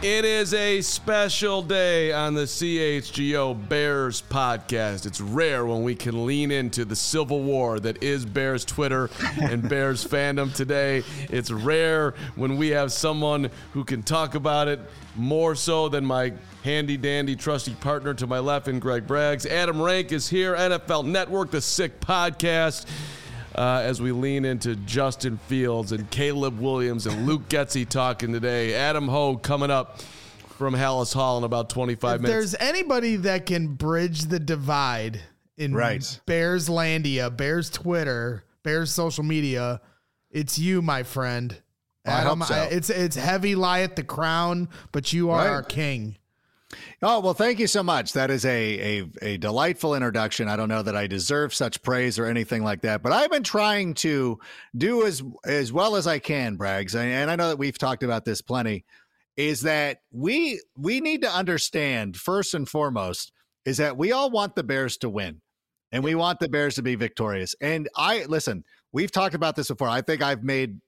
It is a special day on the CHGO Bears podcast. It's rare when we can lean into the civil war that is Bears Twitter and Bears fandom today. It's rare when we have someone who can talk about it more so than my handy-dandy trusty partner to my left in Greg Braggs. Adam Rank is here, NFL Network, the Sick Podcast. As we lean into Justin Fields and Caleb Williams and Luke Getsy talking today. Adam Hogue coming up from Hallis Hall in about 25 minutes. If there's anybody that can bridge the divide in Bears Landia, Bears Twitter, Bears social media, it's you, my friend. Adam, I hope so. It's heavy lie at the crown, but you are our king. Oh, well, thank you so much. That is a delightful introduction. I don't know that I deserve such praise or anything like that, but I've been trying to do as well as I can, Braggs. And I know that we've talked about this plenty, is that we need to understand, first and foremost, is that we all want the Bears to win and we want the Bears to be victorious. And listen, we've talked about this before. I think I've made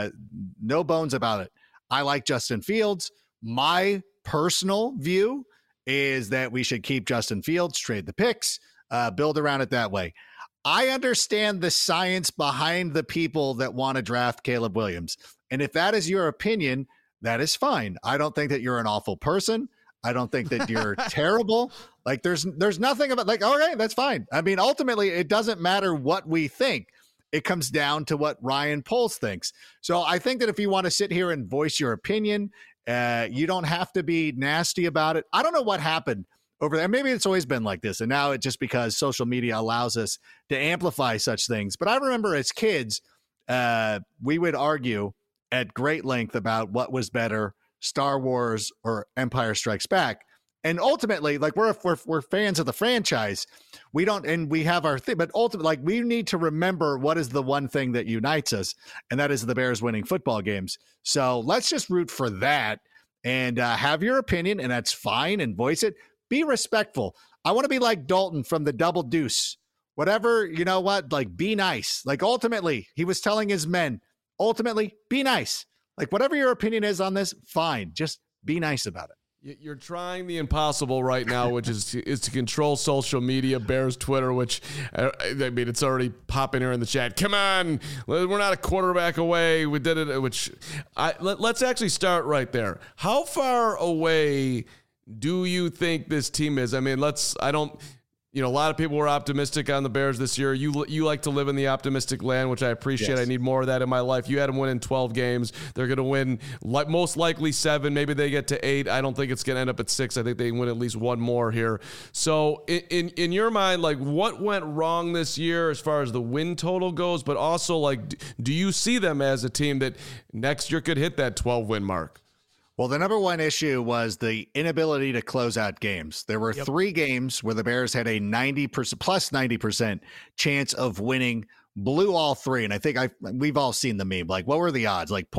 no bones about it. I like Justin Fields. My personal view is that we should keep Justin Fields, trade the picks, build around it that way. I understand the science behind the people that want to draft Caleb Williams. And if that is your opinion, that is fine. I don't think that you're an awful person. I don't think that you're terrible. Like there's nothing about like, all right, that's fine. I mean, ultimately it doesn't matter what we think. It comes down to what Ryan Poles thinks. So I think that if you want to sit here and voice your opinion, you don't have to be nasty about it. I don't know what happened over there. Maybe it's always been like this. And now it's just because social media allows us to amplify such things. But I remember as kids, we would argue at great length about what was better, Star Wars or Empire Strikes Back. And ultimately, like we're fans of the franchise. We don't, and we have our thing, but ultimately, like we need to remember what is the one thing that unites us, and that is the Bears winning football games. So let's just root for that and have your opinion, and that's fine, and voice it. Be respectful. I want to be like Dalton from the Double Deuce. Whatever, you know what? Like, be nice. Like, ultimately, he was telling his men, ultimately, be nice. Like, whatever your opinion is on this, fine. Just be nice about it. You're trying the impossible right now, which is to control social media, Bears Twitter, which, I mean, it's already popping here in the chat. Come on, we're not a quarterback away. We did it, let's actually start right there. How far away do you think this team is? I mean, a lot of people were optimistic on the Bears this year. You like to live in the optimistic land, which I appreciate. Yes. I need more of that in my life. You had them win in 12 games. They're going to win most likely 7. Maybe they get to 8. I don't think it's going to end up at 6. I think they win at least one more here. So in your mind, like what went wrong this year as far as the win total goes, but also like, do you see them as a team that next year could hit that 12-win mark? Well, the number one issue was the inability to close out games. There were 3 games where the Bears had a 90% plus 90% chance of winning, blew all 3. And I think we've all seen the meme. Like, what were the odds? Like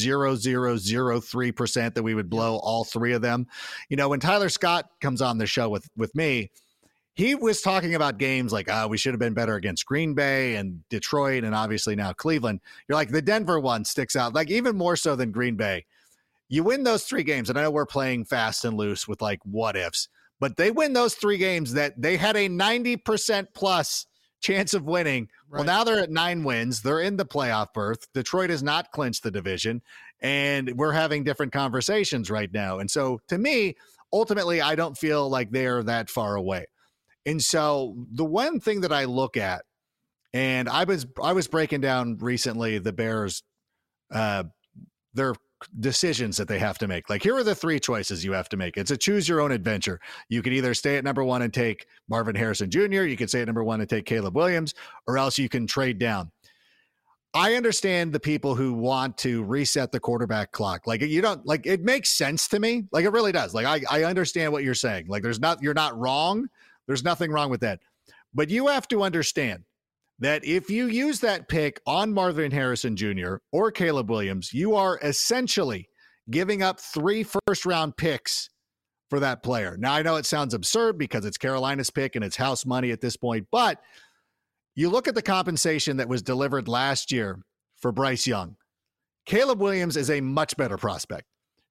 0.0003% that we would blow all 3 of them. You know, when Tyler Scott comes on the show with me, he was talking about games like, we should have been better against Green Bay and Detroit and obviously now Cleveland. You're like, the Denver one sticks out, like even more so than Green Bay. You win those 3 games, and I know we're playing fast and loose with like what ifs, but they win those 3 games that they had a 90% plus chance of winning. Right. Well, now they're at 9 wins. They're in the playoff berth. Detroit has not clinched the division, and we're having different conversations right now. And so to me, ultimately, I don't feel like they're that far away. And so the one thing that I look at, and I was breaking down recently the Bears, their decisions that they have to make. Like, here are the 3 choices you have to make. It's a choose your own adventure. You can either stay at number 1 and take Marvin Harrison Jr., you can stay at number 1 and take Caleb Williams, or else you can trade down. I understand the people who want to reset the quarterback clock. Like, you don't, like, it makes sense to me. Like, it really does. Like, I understand what you're saying. Like, you're not wrong. There's nothing wrong with that. But you have to understand that if you use that pick on Marvin Harrison Jr. or Caleb Williams, you are essentially giving up 3 first-round picks for that player. Now, I know it sounds absurd because it's Carolina's pick and it's house money at this point, but you look at the compensation that was delivered last year for Bryce Young. Caleb Williams is a much better prospect.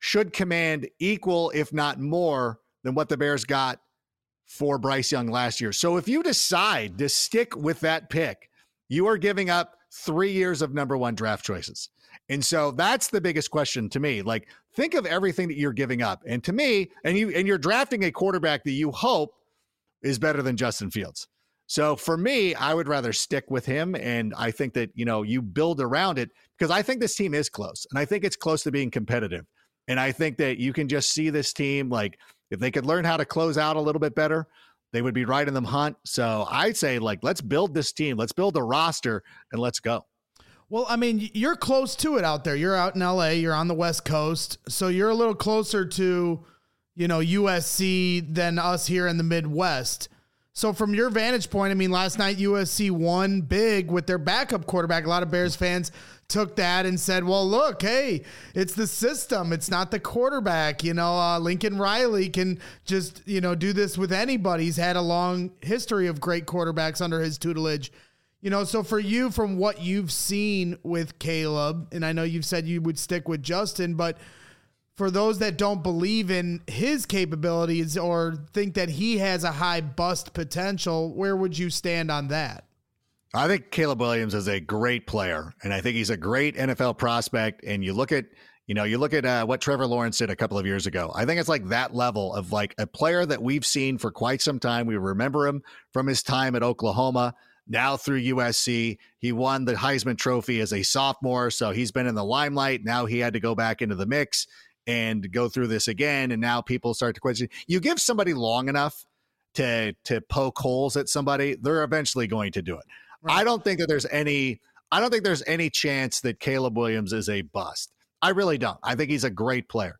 should command equal, if not more, than what the Bears got for Bryce Young last year. So if you decide to stick with that pick, you are giving up 3 years of number one draft choices. And so that's the biggest question to me. Like, think of everything that you're giving up. And to me, and you're drafting a quarterback that you hope is better than Justin Fields. So for me, I would rather stick with him. And I think that, you build around it, because I think this team is close, and I think it's close to being competitive. And I think that you can just see this team, like, if they could learn how to close out a little bit better, they would be right in the hunt. So I'd say, like, let's build this team, let's build a roster, and let's go. Well, I mean, you're close to it out there. You're out in LA, you're on the West Coast. So you're a little closer to, USC than us here in the Midwest. So from your vantage point, I mean, last night USC won big with their backup quarterback. A lot of Bears fans took that and said, well, look, hey, it's the system. It's not the quarterback. Lincoln Riley can just, do this with anybody. He's had a long history of great quarterbacks under his tutelage. So for you, from what you've seen with Caleb, and I know you've said you would stick with Justin, but for those that don't believe in his capabilities or think that he has a high bust potential, where would you stand on that? I think Caleb Williams is a great player, and I think he's a great NFL prospect. And you look at what Trevor Lawrence did a couple of years ago. I think it's like that level of, like, a player that we've seen for quite some time. We remember him from his time at Oklahoma, now through USC. He won the Heisman Trophy as a sophomore, so he's been in the limelight. Now he had to go back into the mix and go through this again. And now people start to question. You give somebody long enough to poke holes at somebody, they're eventually going to do it. Right. I don't think there's any chance that Caleb Williams is a bust. I really don't. I think he's a great player.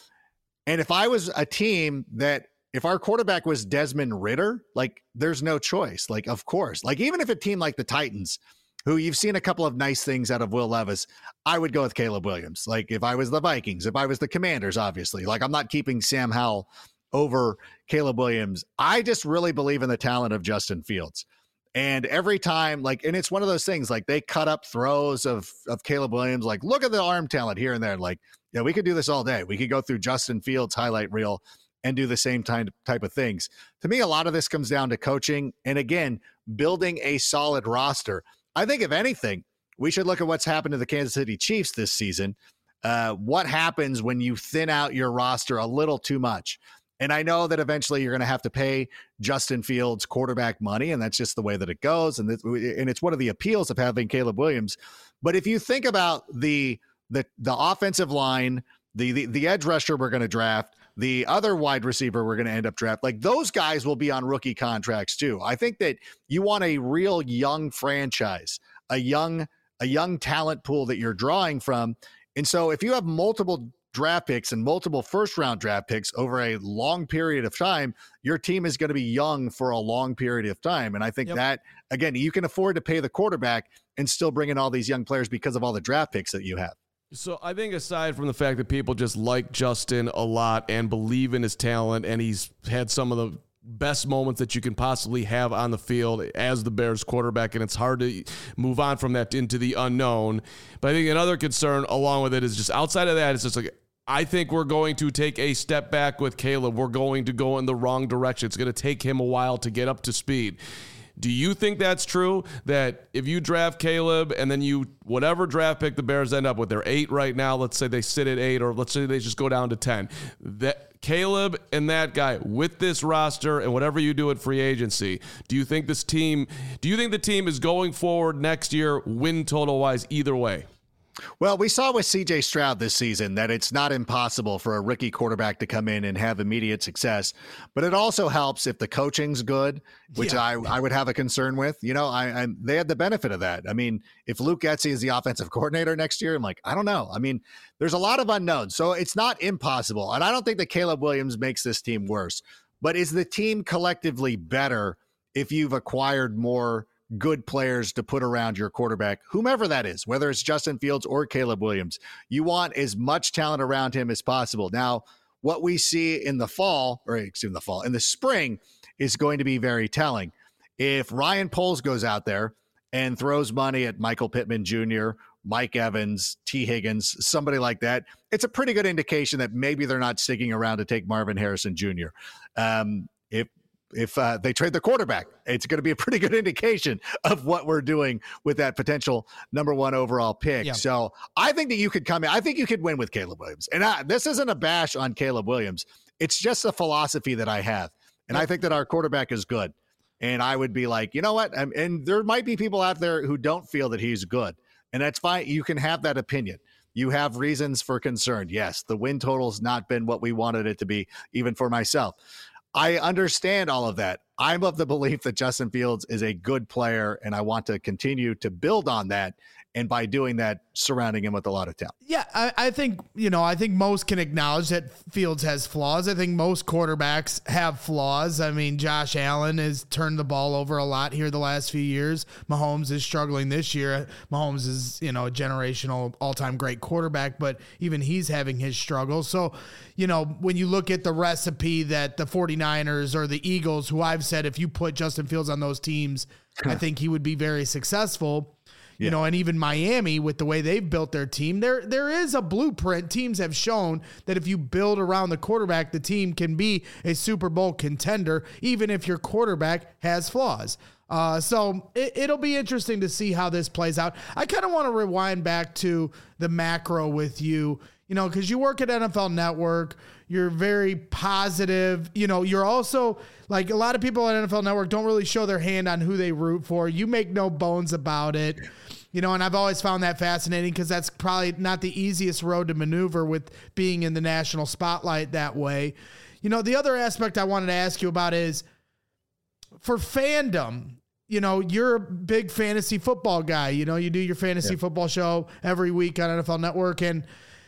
And if I was a team if our quarterback was Desmond Ridder, like, there's no choice. Like, of course, like, even if a team like the Titans, who you've seen a couple of nice things out of Will Levis, I would go with Caleb Williams. Like, if I was the Vikings, if I was the Commanders, obviously, like, I'm not keeping Sam Howell over Caleb Williams. I just really believe in the talent of Justin Fields. And every time, like, and it's one of those things, like, they cut up throws of Caleb Williams, like, look at the arm talent here and there. Like, yeah, we could do this all day. We could go through Justin Fields' highlight reel and do the same type of things. To me, a lot of this comes down to coaching and, again, building a solid roster. I think, if anything, we should look at what's happened to the Kansas City Chiefs this season. What happens when you thin out your roster a little too much? And I know that eventually you're going to have to pay Justin Fields quarterback money, and that's just the way that it goes. And it's one of the appeals of having Caleb Williams. But if you think about the offensive line, the edge rusher we're going to draft, the other wide receiver we're going to end up draft, like, those guys will be on rookie contracts too. I think that you want a real young franchise, a young talent pool that you're drawing from. And so if you have multiple draft picks and multiple first-round draft picks over a long period of time, your team is going to be young for a long period of time. And I think that, again, you can afford to pay the quarterback and still bring in all these young players because of all the draft picks that you have. So I think, aside from the fact that people just like Justin a lot and believe in his talent, and he's had some of the best moments that you can possibly have on the field as the Bears quarterback, and it's hard to move on from that into the unknown. But I think another concern along with it is just outside of that, it's just like, I think we're going to take a step back with Caleb. We're going to go in the wrong direction. It's going to take him a while to get up to speed. Do you think that's true? That if you draft Caleb and then whatever draft pick the Bears end up with, they're 8 right now. Let's say they sit at 8, or let's say they just go down to 10. That Caleb and that guy with this roster and whatever you do at free agency, do you think the team is going forward next year, win total wise, either way? Well, we saw with C.J. Stroud this season that it's not impossible for a rookie quarterback to come in and have immediate success, but it also helps if the coaching's good, which I would have a concern with. They had the benefit of that. I mean, if Luke Getsy is the offensive coordinator next year, I'm like, I don't know. I mean, there's a lot of unknowns, so it's not impossible. And I don't think that Caleb Williams makes this team worse, but is the team collectively better if you've acquired more good players to put around your quarterback, whomever that is, whether it's Justin Fields or Caleb Williams? You want as much talent around him as possible. Now, what we see in the spring is going to be very telling. If Ryan Poles goes out there and throws money at Michael Pittman Jr., Mike Evans, T. Higgins, somebody like that, it's a pretty good indication that maybe they're not sticking around to take Marvin Harrison Jr. If they trade the quarterback, it's going to be a pretty good indication of what we're doing with that potential number 1 overall pick. Yeah. So I think that you could come in. I think you could win with Caleb Williams. And this isn't a bash on Caleb Williams. It's just a philosophy that I have. And I think that our quarterback is good. And I would be like, you know what? And there might be people out there who don't feel that he's good. And that's fine. You can have that opinion. You have reasons for concern. Yes, the win total's not been what we wanted it to be, even for myself. I understand all of that. I'm of the belief that Justin Fields is a good player, and I want to continue to build on that. And by doing that, surrounding him with a lot of talent. Yeah, I think most can acknowledge that Fields has flaws. I think most quarterbacks have flaws. I mean, Josh Allen has turned the ball over a lot here the last few years. Mahomes is struggling this year. Mahomes is, a generational all-time great quarterback, but even he's having his struggles. So, when you look at the recipe that the 49ers or the Eagles, who I've said if you put Justin Fields on those teams, I think he would be very successful. Yeah. And even Miami, with the way they've built their team, there is a blueprint. Teams have shown that if you build around the quarterback, the team can be a Super Bowl contender, even if your quarterback has flaws. So it'll be interesting to see how this plays out. I kind of want to rewind back to the macro with you, because you work at NFL Network. You're very positive. You're also like a lot of people at NFL Network don't really show their hand on who they root for. You make no bones about it. And I've always found that fascinating because that's probably not the easiest road to maneuver with being in the national spotlight that way. The other aspect I wanted to ask you about is for fandom. You're a big fantasy football guy. You do your fantasy football show every week on NFL Network. And,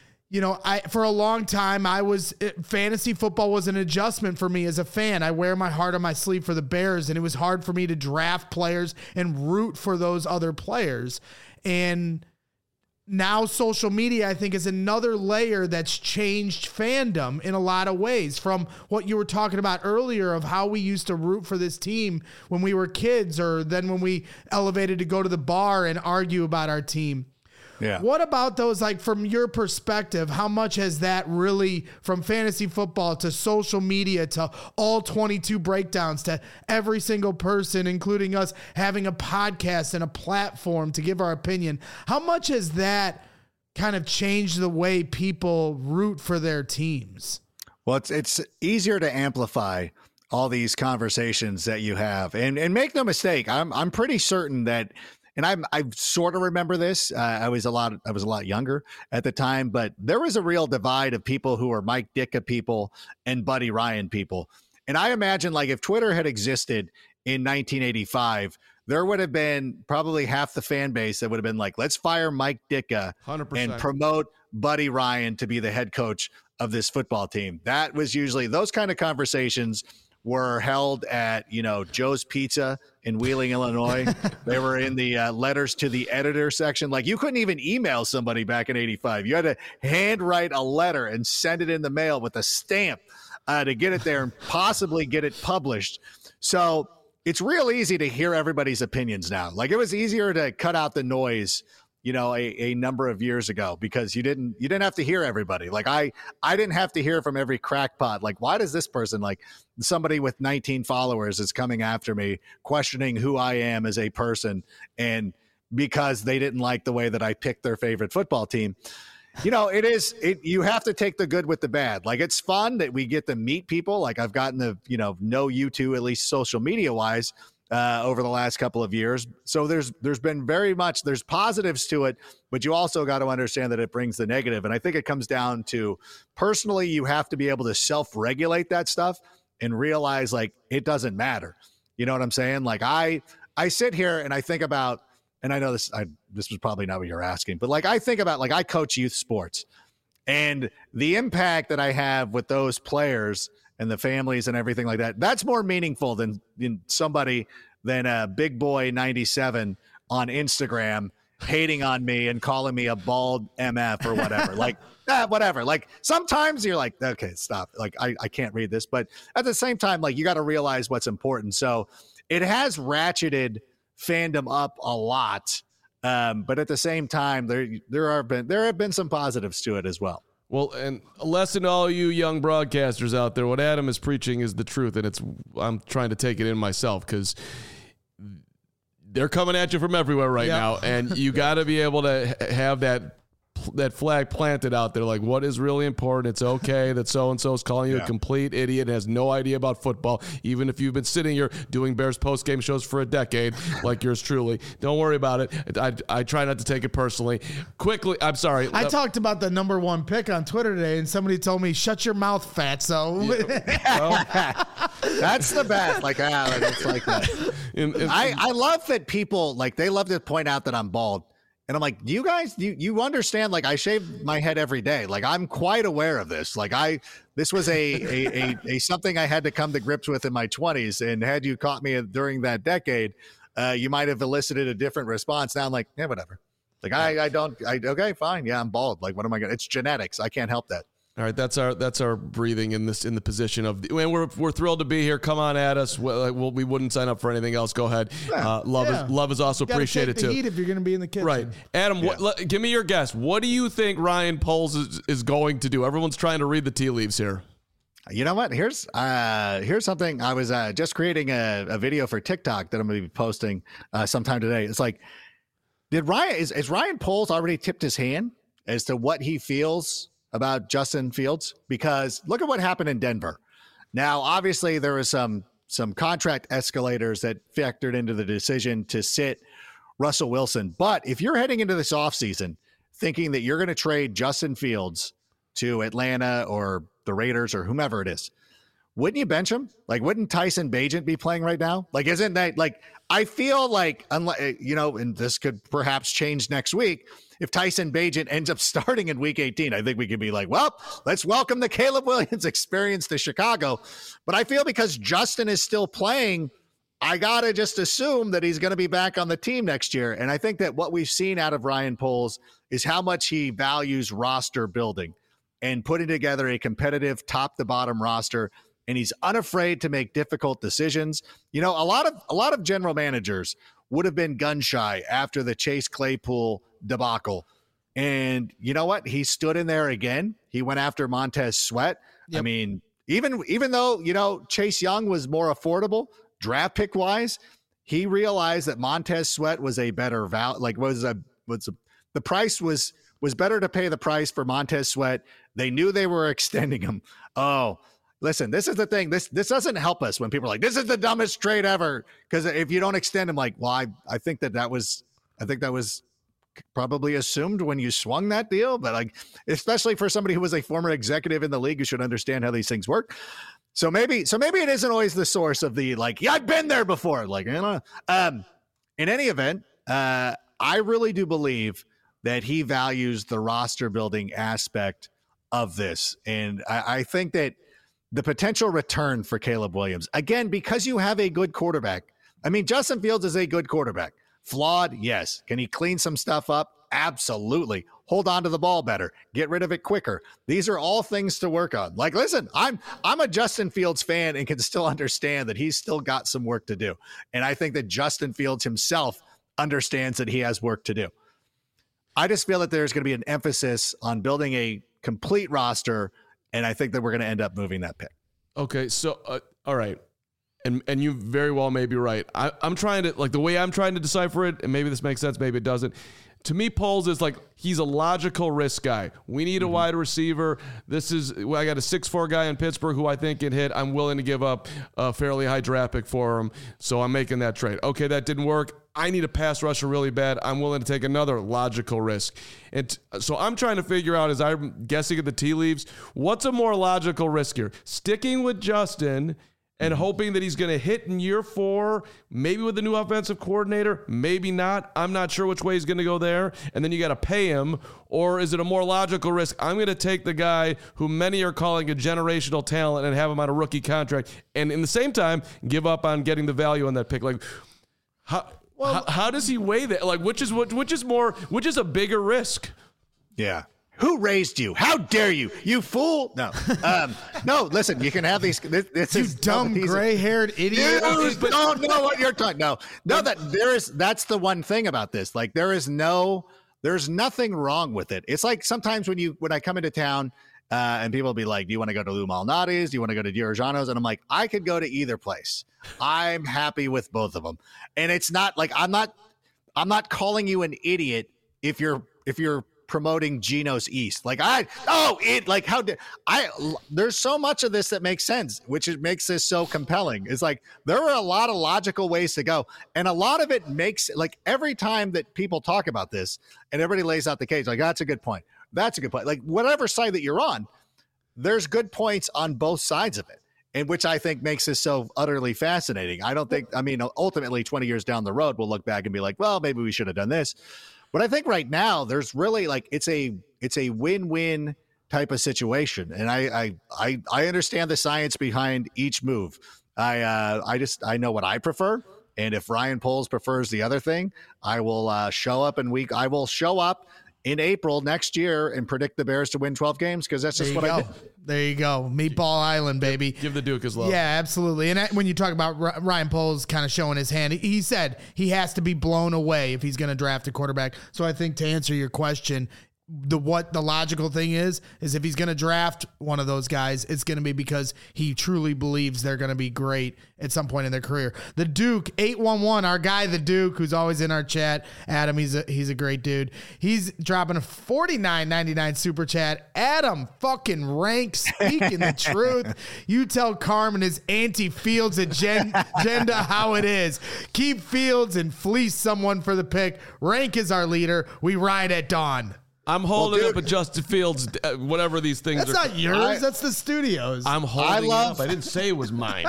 for a long time, fantasy football was an adjustment for me as a fan. I wear my heart on my sleeve for the Bears, and it was hard for me to draft players and root for those other players. And now social media, I think, is another layer that's changed fandom in a lot of ways, from what you were talking about earlier of how we used to root for this team when we were kids, or then when we elevated to go to the bar and argue about our team. Yeah. What about those, like from your perspective, how much has that really, from fantasy football to social media to all 22 breakdowns to every single person, including us, having a podcast and a platform to give our opinion, how much has that kind of changed the way people root for their teams? Well, it's easier to amplify all these conversations that you have, and make no mistake, I'm pretty certain that. And I sort of remember this. I was a lot younger at the time, but there was a real divide of people who were Mike Ditka people and Buddy Ryan people. And I imagine, like, if Twitter had existed in 1985, there would have been probably half the fan base that would have been like, let's fire Mike Ditka 100%. And promote Buddy Ryan to be the head coach of this football team. That was usually, those kind of conversations were held at, Joe's Pizza in Wheeling, Illinois. They were in the letters to the editor section. Like, you couldn't even email somebody back in 85. You had to handwrite a letter and send it in the mail with a stamp to get it there and possibly get it published. So it's real easy to hear everybody's opinions now. Like, it was easier to cut out the noise, a number of years ago, because you didn't have to hear everybody. Like, I didn't have to hear from every crackpot. Like, why does this person, like somebody with 19 followers, is coming after me, questioning who I am as a person, and because they didn't like the way that I picked their favorite football team. You have to take the good with the bad. Like, it's fun that we get to meet people. Like, I've gotten to, know you two, at least social media wise, over the last couple of years. So there's been there's positives to it, but you also got to understand that it brings the negative. And I think it comes down to, personally, you have to be able to self-regulate that stuff and realize, like, it doesn't matter. You know what I'm saying? Like, I sit here and I think about, and I know this was probably not what you're asking, but like, I think about, like, I coach youth sports, and the impact that I have with those players and the families and everything like that, that's more meaningful than a big boy 97 on Instagram hating on me and calling me a bald MF or whatever. Like, whatever. Like, sometimes you're like, okay, stop. Like, I can't read this. But at the same time, like, you got to realize what's important. So it has ratcheted fandom up a lot. But at the same time, there have been some positives to it as well. Well, and a lesson to all you young broadcasters out there, what Adam is preaching is the truth, and I'm trying to take it in myself because they're coming at you from everywhere right now, and you got to be able to have that flag planted out there, like what is really important. It's okay that so-and-so is calling you a complete idiot and has no idea about football, even if you've been sitting here doing Bears post-game shows for a decade, like yours truly. Don't worry about it. I try not to take it personally. Quickly, I'm sorry. I talked about the number 1 pick on Twitter today, and somebody told me, shut your mouth, fatso. That's the best. Like, it's like that. I love that people, like, they love to point out that I'm bald. And I'm like, you guys, you understand, like, I shave my head every day. Like, I'm quite aware of this. Like, this was a something I had to come to grips with in my 20s. And had you caught me during that decade, you might have elicited a different response. Now I'm like, yeah, whatever. Like, okay, fine. Yeah, I'm bald. Like, what am I going to, it's genetics. I can't help that. All right, that's our breathing in the position of, and we're thrilled to be here. Come on at us. We wouldn't sign up for anything else. Go ahead. Love is also appreciated too. Heat if you're going to be in the kitchen. Right, Adam. Give me your guess. What do you think Ryan Poles is going to do? Everyone's trying to read the tea leaves here. You know what? Here's something. I was just creating a video for TikTok that I'm going to be posting sometime today. It's like, is Ryan Poles already tipped his hand as to what he feels about Justin Fields? Because look at what happened in Denver. Now, obviously, there was some contract escalators that factored into the decision to sit Russell Wilson. But if you're heading into this offseason thinking that you're going to trade Justin Fields to Atlanta or the Raiders or whomever it is, wouldn't you bench him? Like, wouldn't Tyson Bagent be playing right now? Like, isn't that, like, I feel like, and this could perhaps change next week, if Tyson Bagent ends up starting in week 18, I think we could be like, well, let's welcome the Caleb Williams experience to Chicago. But I feel because Justin is still playing, I got to just assume that he's going to be back on the team next year. And I think that what we've seen out of Ryan Poles is how much he values roster building and putting together a competitive top to bottom roster. And he's unafraid to make difficult decisions. You know, a lot of general managers would have been gun shy after the Chase Claypool debacle. And you know what? He stood in there again. He went after Montez Sweat. Yep. I mean, even though, Chase Young was more affordable draft pick wise, he realized that Montez Sweat was a better value. Like, the price was better to pay the price for Montez Sweat. They knew they were extending him. Oh, listen, this is the thing. This doesn't help us when people are like, this is the dumbest trade ever. Because if you don't extend him, like, well, I think that was probably assumed when you swung that deal. But, like, especially for somebody who was a former executive in the league who should understand how these things work. So maybe it isn't always the source of the, like, yeah, I've been there before. Like, in any event, I really do believe that he values the roster building aspect of this. And I think that the potential return for Caleb Williams, again, because you have a good quarterback. I mean, Justin Fields is a good quarterback. Flawed, yes. Can he clean some stuff up? Absolutely. Hold on to the ball better. Get rid of it quicker. These are all things to work on. Like, listen, I'm a Justin Fields fan and can still understand that he's still got some work to do. And I think that Justin Fields himself understands that he has work to do. I just feel that there's going to be an emphasis on building a complete roster, and I think that we're going to end up moving that pick. Okay, so all right, and you very well may be right. I'm trying to, like, the way I'm trying to decipher it, and maybe this makes sense, maybe it doesn't. To me, Poles is like, he's a logical risk guy. We need a wide receiver. I got a 6'4" guy in Pittsburgh who I think can hit. I'm willing to give up a fairly high draft pick for him, so I'm making that trade. Okay, that didn't work. I need a pass rusher really bad. I'm willing to take another logical risk. And so I'm trying to figure out, as I'm guessing at the tea leaves, what's a more logical risk here? Sticking with Justin and hoping that he's going to hit in year 4, maybe with the new offensive coordinator, maybe not. I'm not sure which way he's going to go there. And then you got to pay him. Or is it a more logical risk? I'm going to take the guy who many are calling a generational talent and have him on a rookie contract. And in the same time, give up on getting the value on that pick. Like, how does he weigh that? Like, which is a bigger risk? Yeah. Who raised you? How dare you? You fool! No, no. Listen, you can have these. This You is dumb gray-haired idiot. Dude, don't know what you're talking. No. That's the one thing about this. Like there's nothing wrong with it. It's like sometimes when I come into town and people will be like, do you want to go to Lou Malnati's? Do you want to go to Giorgiano's? And I'm like, I could go to either place. I'm happy with both of them. And it's not like, I'm not calling you an idiot if you're promoting Geno's East. There's so much of this that makes sense, which makes this so compelling. It's like, there are a lot of logical ways to go. And a lot of it makes, like, every time that people talk about this and everybody lays out the case, like, that's a good point. That's a good point. Like, whatever side that you're on, there's good points on both sides of it. And which I think makes this so utterly fascinating. Ultimately 20 years down the road, we'll look back and be like, well, maybe we should have done this. But I think right now there's really like it's a win-win type of situation, and I understand the science behind each move. I know what I prefer, and if Ryan Poles prefers the other thing, I will show up in April next year and predict the Bears to win 12 games because that's just what I did. There you go. Meatball Island, baby. Give the Duke his love. Yeah, absolutely. And when you talk about Ryan Poles kind of showing his hand, he said he has to be blown away if he's going to draft a quarterback. So I think to answer your question, what the logical thing is if he's going to draft one of those guys, it's going to be because he truly believes they're going to be great at some point in their career. The Duke 811, our guy, the Duke, who's always in our chat. Adam, he's a great dude. He's dropping a $49.99 super chat. Adam fucking Rank speaking the truth. You tell Carmen his anti-Fields agenda how it is. Keep Fields and fleece someone for the pick. Rank is our leader. We ride at dawn. I'm holding up a Justin Fields, whatever these things are. That's not yours. That's the studio's. I'm holding it up. I didn't say it was mine.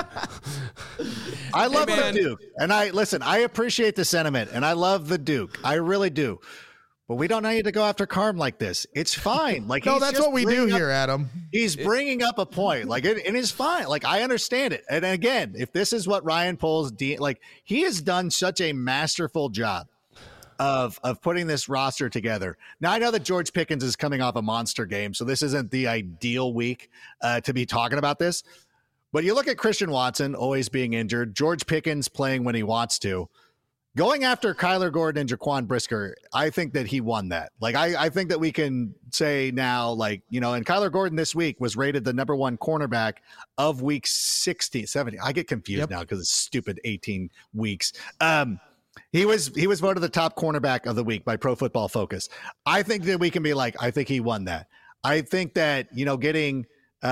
I love the Duke. And I appreciate the sentiment. And I love the Duke. I really do. But we don't need to go after Carm like this. It's fine. Like no, that's what we do here, Adam. He's bringing up a point. Like it is fine. Like I understand it. And again, if this is what Ryan Poles, he has done such a masterful job of putting this roster together. Now, I know that George Pickens is coming off a monster game, so this isn't the ideal week to be talking about this. But you look at Christian Watson always being injured, George Pickens playing when he wants to. Going after Kyler Gordon and Jaquan Brisker, I think that he won that. Like, I think that we can say now, like, you know, and Kyler Gordon this week was rated the number one cornerback of week 16, 17. I get confused now because it's stupid 18 weeks. He was voted the top cornerback of the week by Pro Football Focus. I think that we can be like, I think he won that. I think that, you know, getting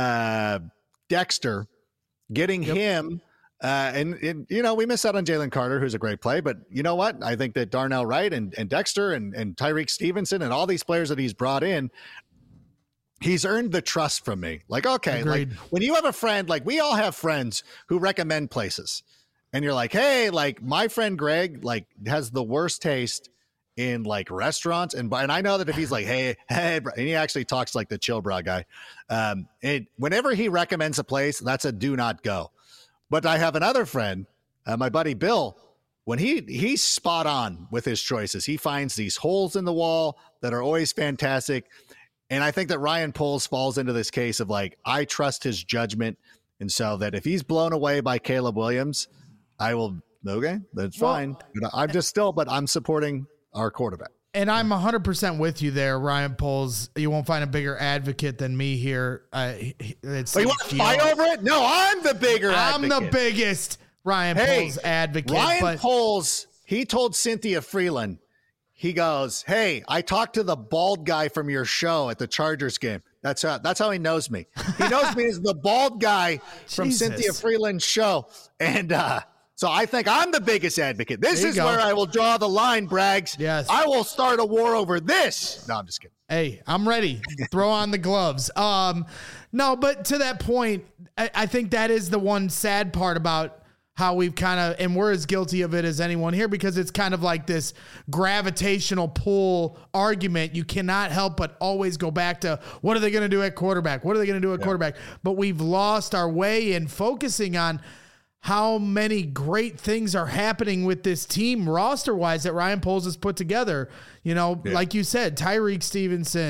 Dexter, getting him, and you know, we missed out on Jalen Carter, who's a great play, but you know what? I think that Darnell Wright and Dexter and Tyreek Stevenson and all these players that he's brought in, he's earned the trust from me. Like, okay, agreed. Like when you have a friend, like we all have friends who recommend places. And you're like, hey, like my friend Greg, like has the worst taste in like restaurants. And I know that if he's like, hey, and he actually talks like the chill bra guy. Whenever he recommends a place, that's a do not go. But I have another friend, my buddy Bill, when he's spot on with his choices. He finds these holes in the wall that are always fantastic. And I think that Ryan Poles falls into this case of like, I trust his judgment. And so that if he's blown away by Caleb Williams, I will, okay, that's fine. But I'm supporting our quarterback. And I'm 100% with you there, Ryan Poles. You won't find a bigger advocate than me here. You want to fight over it? No, I'm the bigger advocate. I'm the biggest Ryan Poles advocate. Ryan Poles, he told Cynthia Freeland, he goes, hey, I talked to the bald guy from your show at the Chargers game. That's how he knows me. He knows me as the bald guy from Cynthia Freeland's show. And so I think I'm the biggest advocate. This is where I will draw the line, Braggs. Yes. I will start a war over this. No, I'm just kidding. Hey, I'm ready. Throw on the gloves. No, but to that point, I think that is the one sad part about how we've kind of, and we're as guilty of it as anyone here, because it's kind of like this gravitational pull argument. You cannot help but always go back to, what are they going to do at quarterback? What are they going to do at quarterback? But we've lost our way in focusing on how many great things are happening with this team roster wise that Ryan Poles has put together. You know, like you said, Tyreek Stevenson,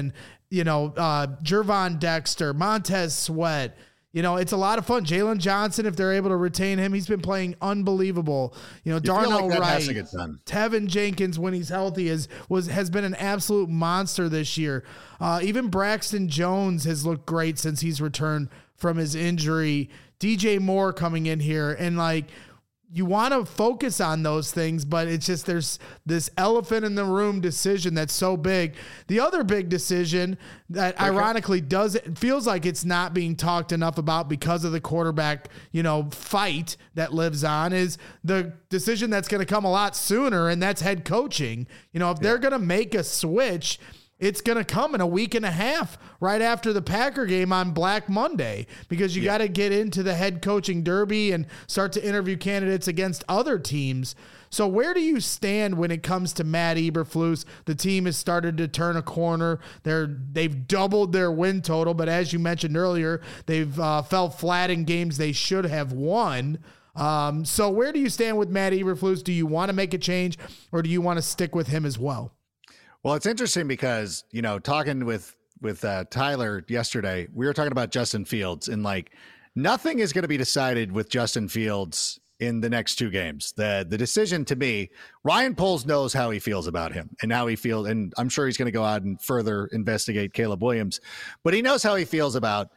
Gervon Dexter, Montez Sweat. It's a lot of fun. Jalen Johnson, if they're able to retain him, he's been playing unbelievable. Darnell Wright, Tevin Jenkins, when he's healthy, has been an absolute monster this year. Even Braxton Jones has looked great since he's returned from his injury. DJ Moore coming in here, and you want to focus on those things, but it's just there's this elephant in the room decision that's so big. The other big decision that ironically feels like it's not being talked enough about because of the quarterback, fight that lives on, is the decision that's going to come a lot sooner, and that's head coaching. If they're going to make a switch, it's going to come in a week and a half right after the Packer game on Black Monday, because you got to get into the head coaching derby and start to interview candidates against other teams. So where do you stand when it comes to Matt Eberflus? The team has started to turn a corner. They've doubled their win total, but as you mentioned earlier, they've fell flat in games they should have won. So where do you stand with Matt Eberflus? Do you want to make a change, or do you want to stick with him as well? Well, it's interesting because, talking with Tyler yesterday, we were talking about Justin Fields, and nothing is going to be decided with Justin Fields in the next two games. The decision, to me, Ryan Poles knows how he feels about him and how he feels. And I'm sure he's going to go out and further investigate Caleb Williams, but he knows how he feels about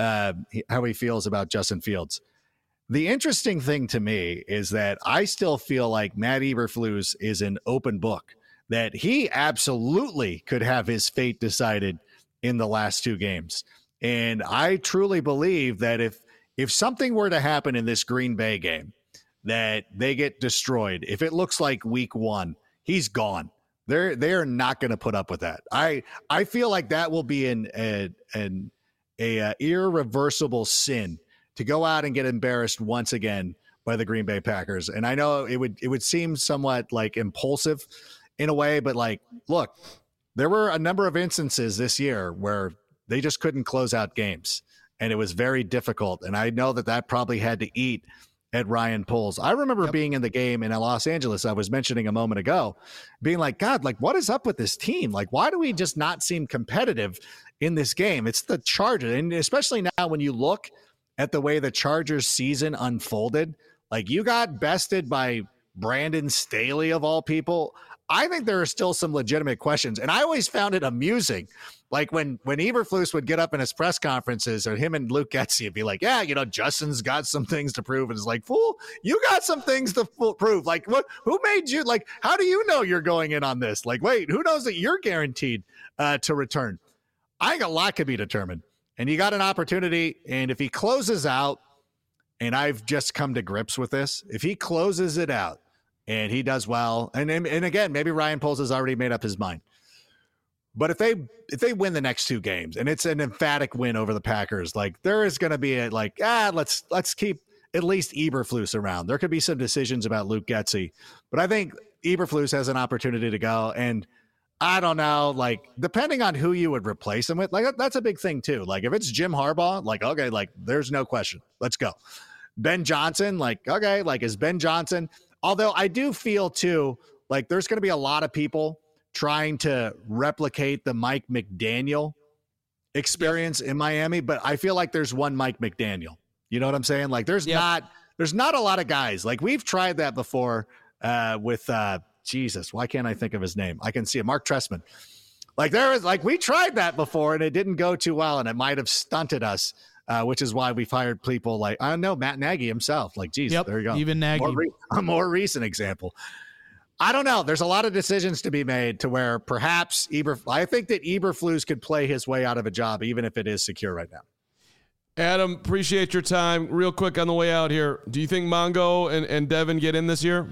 Justin Fields. The interesting thing to me is that I still feel like Matt Eberflus is an open book, that he absolutely could have his fate decided in the last two games. And I truly believe that if something were to happen in this Green Bay game, that they get destroyed, if it looks like week one, he's gone. They are not going to put up with that. I feel like that will be an irreversible sin to go out and get embarrassed once again by the Green Bay Packers. And I know it would seem somewhat impulsive in a way, but look, there were a number of instances this year where they just couldn't close out games, and it was very difficult. And I know that probably had to eat at Ryan Poles. I remember being in the game in Los Angeles, I was mentioning a moment ago, being like, God, what is up with this team? Why do we just not seem competitive in this game? It's the Chargers. And especially now when you look at the way the Chargers season unfolded, you got bested by Brandon Staley of all people. I think there are still some legitimate questions. And I always found it amusing. When Eberflus would get up in his press conferences, or him and Luke Getsy would be like, yeah, Justin's got some things to prove. And it's like, fool, you got some things to prove. What, who made you, how do you know you're going in on this? Wait, who knows that you're guaranteed to return? I think a lot could be determined, and you got an opportunity. And if he closes out, and I've just come to grips with this, if he closes it out, and he does well, and again, maybe Ryan Poles has already made up his mind. But if they win the next two games, and it's an emphatic win over the Packers, there is going to be let's keep at least Eberflus around. There could be some decisions about Luke Getsy, but I think Eberflus has an opportunity to go. And I don't know, depending on who you would replace him with, that's a big thing too. If it's Jim Harbaugh, okay, there's no question, let's go. Ben Johnson, okay, is Ben Johnson. Although I do feel too, there's going to be a lot of people trying to replicate the Mike McDaniel experience in Miami, but I feel like there's one Mike McDaniel. You know what I'm saying? There's not a lot of guys. We've tried that before with Jesus. Why can't I think of his name? I can see it. Mark Trestman. We tried that before, and it didn't go too well, and it might have stunted us. Which is why we've hired people I know Matt Nagy himself. Geez, there you go. Even Nagy. A more recent example. I don't know. There's a lot of decisions to be made to where perhaps I think that Eberflus could play his way out of a job, even if it is secure right now. Adam, appreciate your time. Real quick on the way out here, do you think Mongo and Devin get in this year?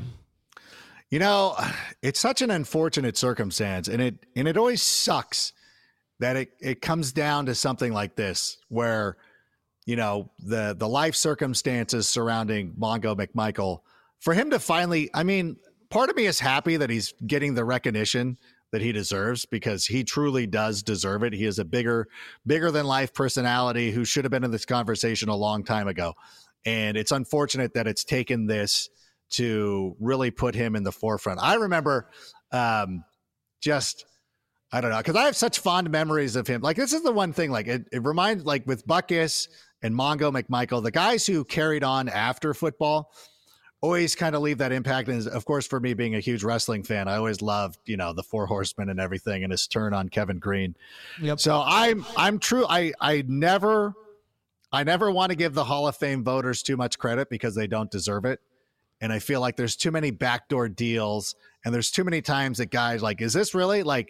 It's such an unfortunate circumstance, and it always sucks that it comes down to something like this where the life circumstances surrounding Mongo McMichael, for him to finally, part of me is happy that he's getting the recognition that he deserves, because he truly does deserve it. He is a bigger than life personality who should have been in this conversation a long time ago. And it's unfortunate that it's taken this to really put him in the forefront. I remember I don't know, because I have such fond memories of him. Like, this is the one thing, like, it reminds, like, with Butkus and Mongo McMichael, the guys who carried on after football always kind of leave that impact. And of course, for me being a huge wrestling fan, I always loved, the Four Horsemen and everything, and his turn on Kevin Green. Yep. So I'm true. I never want to give the Hall of Fame voters too much credit because they don't deserve it. And I feel like there's too many backdoor deals, and there's too many times that guys like, is this really, like,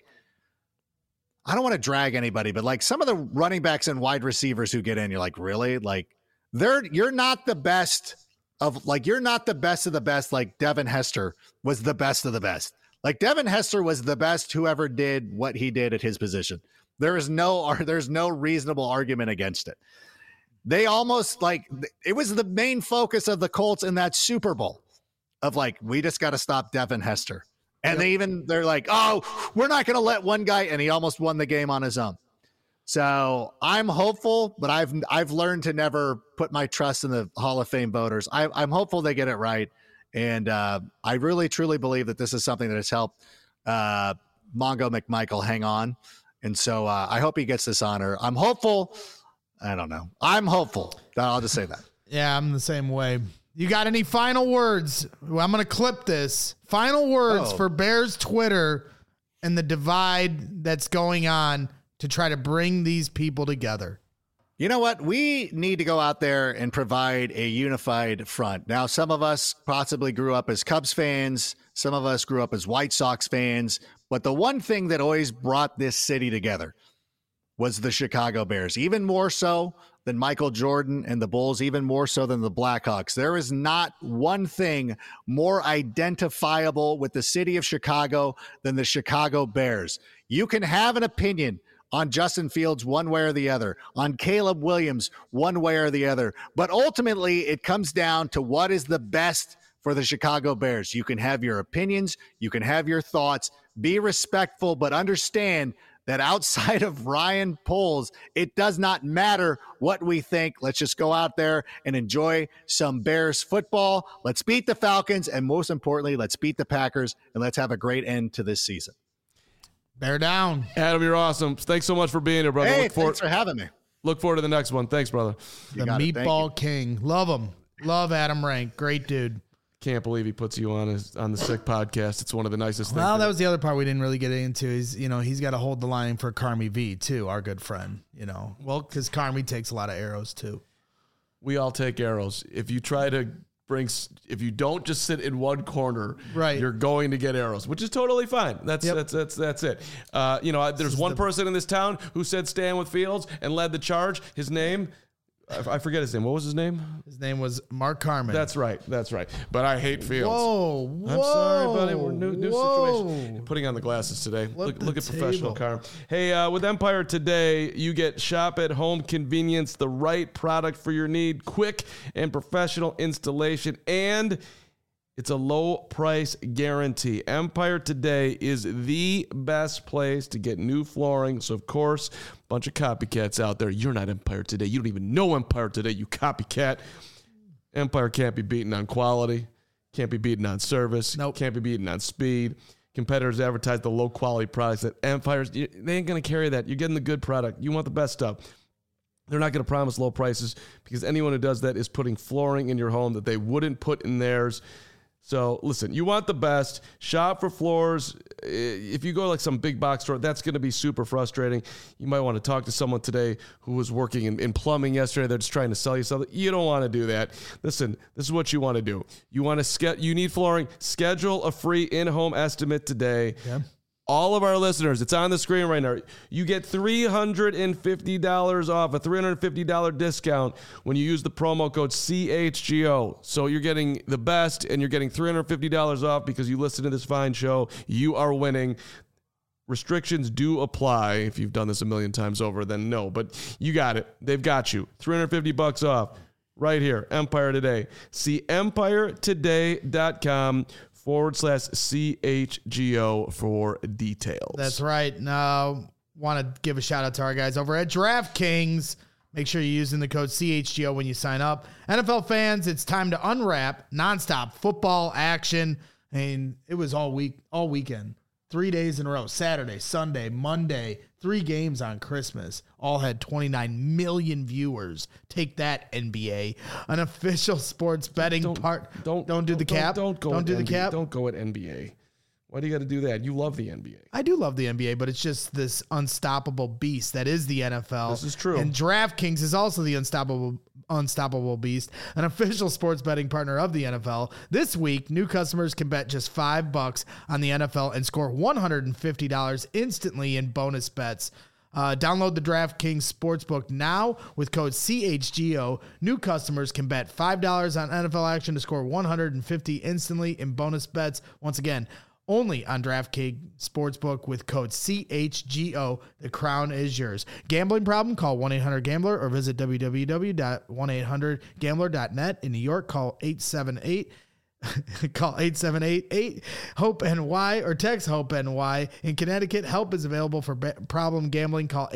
I don't want to drag anybody, but like some of the running backs and wide receivers who get in, you're like, really? Like, you're not the best of, like, you're not the best of the best. Like Devin Hester was the best of the best. Like Devin Hester was the best whoever did what he did at his position. There's no reasonable argument against it. They almost, like, it was the main focus of the Colts in that Super Bowl of, like, we just got to stop Devin Hester. And they're like, oh, we're not going to let one guy, and he almost won the game on his own. So I'm hopeful, but I've learned to never put my trust in the Hall of Fame voters. I'm hopeful they get it right. And I really, truly believe that this is something that has helped Mongo McMichael hang on. And so I hope he gets this honor. I'm hopeful. I don't know. I'm hopeful. I'll just say that. Yeah, I'm the same way. You got any final words? Well, I'm going to clip this. Final words for Bears Twitter and the divide that's going on to try to bring these people together. You know what? We need to go out there and provide a unified front. Now, some of us possibly grew up as Cubs fans. Some of us grew up as White Sox fans. But the one thing that always brought this city together was the Chicago Bears, even more so than Michael Jordan and the Bulls, even more so than the Blackhawks. There is not one thing more identifiable with the city of Chicago than the Chicago Bears. You can have an opinion on Justin Fields one way or the other, on Caleb Williams one way or the other, but ultimately it comes down to what is the best for the Chicago Bears. You can have your opinions, you can have your thoughts, be respectful, but understand that outside of Ryan Poles, it does not matter what we think. Let's just go out there and enjoy some Bears football. Let's beat the Falcons, and most importantly, let's beat the Packers, and let's have a great end to this season. Bear down. Adam, you're awesome. Thanks so much for being here, brother. Hey, thanks for having me. Look forward to the next one. Thanks, brother. The Meatball King. Love him. Love Adam Rank. Great dude. Can't believe he puts you on the Sick podcast. It's one of the nicest things. Well, that was the other part we didn't really get into is, he's got to hold the line for Carmi V too, our good friend, well, because Carmi takes a lot of arrows too. We all take arrows. If you don't just sit in one corner, right, you're going to get arrows, which is totally fine. That's it. There's one person in this town who said stand with Fields and led the charge. His name, I forget his name. What was his name? His name was Mark Carman. That's right. But I hate Fields. Whoa. I'm sorry, buddy. We're new situation. Putting on the glasses today. Look at professional Carm. Hey, with Empire Today, you get shop at home convenience, the right product for your need, quick and professional installation, and it's a low price guarantee. Empire Today is the best place to get new flooring. So, of course, a bunch of copycats out there. You're not Empire Today. You don't even know Empire Today, you copycat. Empire can't be beaten on quality. Can't be beaten on service. Nope. Can't be beaten on speed. Competitors advertise the low quality products that Empire's, they ain't going to carry that. You're getting the good product. You want the best stuff. They're not going to promise low prices because anyone who does that is putting flooring in your home that they wouldn't put in theirs. So listen, you want the best. Shop for floors. If you go to like some big box store, that's going to be super frustrating. You might want to talk to someone today who was working in plumbing yesterday. They're just trying to sell you something. You don't want to do that. Listen, this is what you want to do. You need flooring. Schedule a free in-home estimate today. Yeah. All of our listeners, it's on the screen right now. You get $350 off, a $350 discount when you use the promo code CHGO. So you're getting the best, and you're getting $350 off because you listen to this fine show. You are winning. Restrictions do apply. If you've done this a million times over, then no. But you got it. They've got you. $350 off right here. Empire Today. See EmpireToday.com/CHGO for details. That's right. Now, want to give a shout out to our guys over at DraftKings. Make sure you're using the code CHGO when you sign up. NFL fans, it's time to unwrap nonstop football action. I mean, it was all weekend. 3 days in a row, Saturday, Sunday, Monday, 3 games on Christmas, all had 29 million viewers. Take that, NBA. An official sports betting Don't do the cap. Don't go the cap. Don't go at NBA. Why do you got to do that? You love the NBA. I do love the NBA, but it's just this unstoppable beast that is the NFL. This is true. And DraftKings is also the unstoppable beast, an official sports betting partner of the NFL. This week, new customers can bet just $5 on the NFL and score $150 instantly in bonus bets. Download the DraftKings Sportsbook now with code CHGO. New customers can bet $5 on NFL action to score $150 instantly in bonus bets. Once again, only on DraftKings Sportsbook with code CHGO. The crown is yours. Gambling problem? Call 1-800-GAMBLER or visit www.1800gambler.net. In New York, call 878-HOPE-NY or text HOPE-NY. In Connecticut, help is available for problem gambling. Call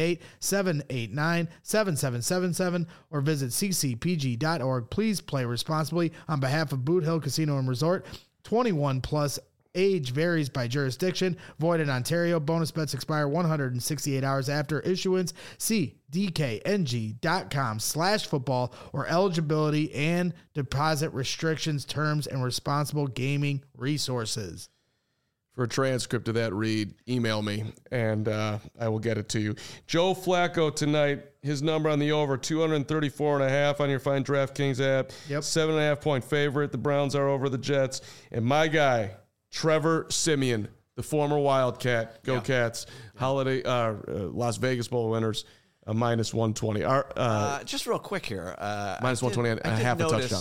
888-789-7777 or visit ccpg.org. Please play responsibly. On behalf of Boot Hill Casino and Resort, 21 plus. Age varies by jurisdiction. Void in Ontario. Bonus bets expire 168 hours after issuance. See dkng.com/football or eligibility and deposit restrictions, terms, and responsible gaming resources. For a transcript of that read, email me, and I will get it to you. Joe Flacco tonight, his number on the over, 234.5 on your fine DraftKings app. Yep. 7.5-point favorite. The Browns are over the Jets. And my guy, Trevor Siemian, the former Wildcat, go Cats, holiday Las Vegas Bowl winners, minus 120. Just real quick here, minus 120 and a half a touchdown.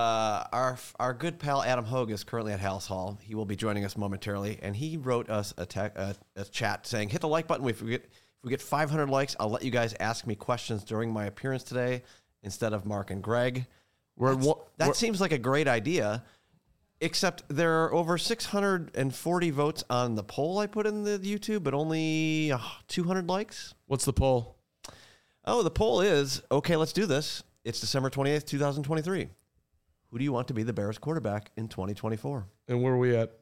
Our good pal Adam Hogue is currently at House Hall. He will be joining us momentarily, and he wrote us a chat saying, "Hit the like button. If we get 500 likes, I'll let you guys ask me questions during my appearance today instead of Mark and Greg." That seems like a great idea. Except there are over 640 votes on the poll I put in the YouTube, but only 200 likes. What's the poll? Oh, the poll is, okay, let's do this. It's December 28th, 2023. Who do you want to be the Bears quarterback in 2024? And where are we at?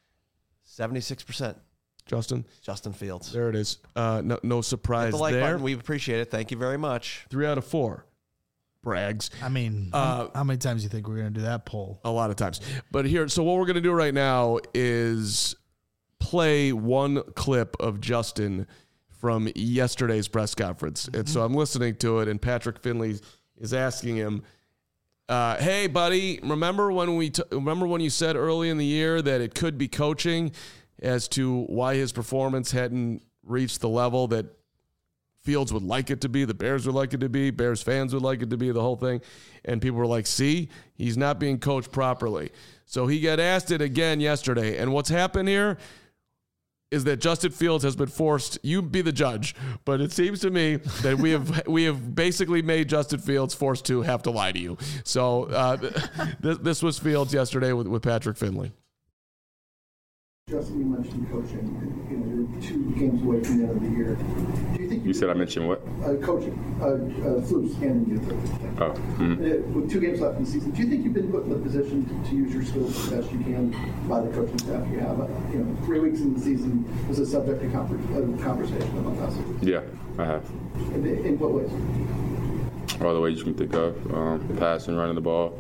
76%. Justin Fields. There it is. No surprise Hit the like there. button. We appreciate it. Thank you very much. 3 out of 4. Brags. I mean, how many times do you think we're going to do that poll? A lot of times. But here, so what we're going to do right now is play one clip of Justin from yesterday's press conference. And so I'm listening to it, and Patrick Finley is asking him, hey, buddy, remember when you said early in the year that it could be coaching as to why his performance hadn't reached the level that Fields would like it to be, the Bears would like it to be, Bears fans would like it to be, the whole thing. And people were like, see, he's not being coached properly. So he got asked it again yesterday. And what's happened here is that Justin Fields has been forced, you be the judge, but it seems to me that we have basically made Justin Fields forced to have to lie to you. So this was Fields yesterday with Patrick Finley. Justin, you mentioned coaching. You're 2 games away from the end of the year. Do you think you said I mentioned what? Coaching. Flus handing you the thing. Oh. Mm-hmm. With 2 games left in the season, do you think you've been put in the position to use your skills as best you can by the coaching staff you have? 3 weeks in the season was a subject of conversation among us. Yeah, I have. In what ways? All the ways you can think of. Passing, running the ball,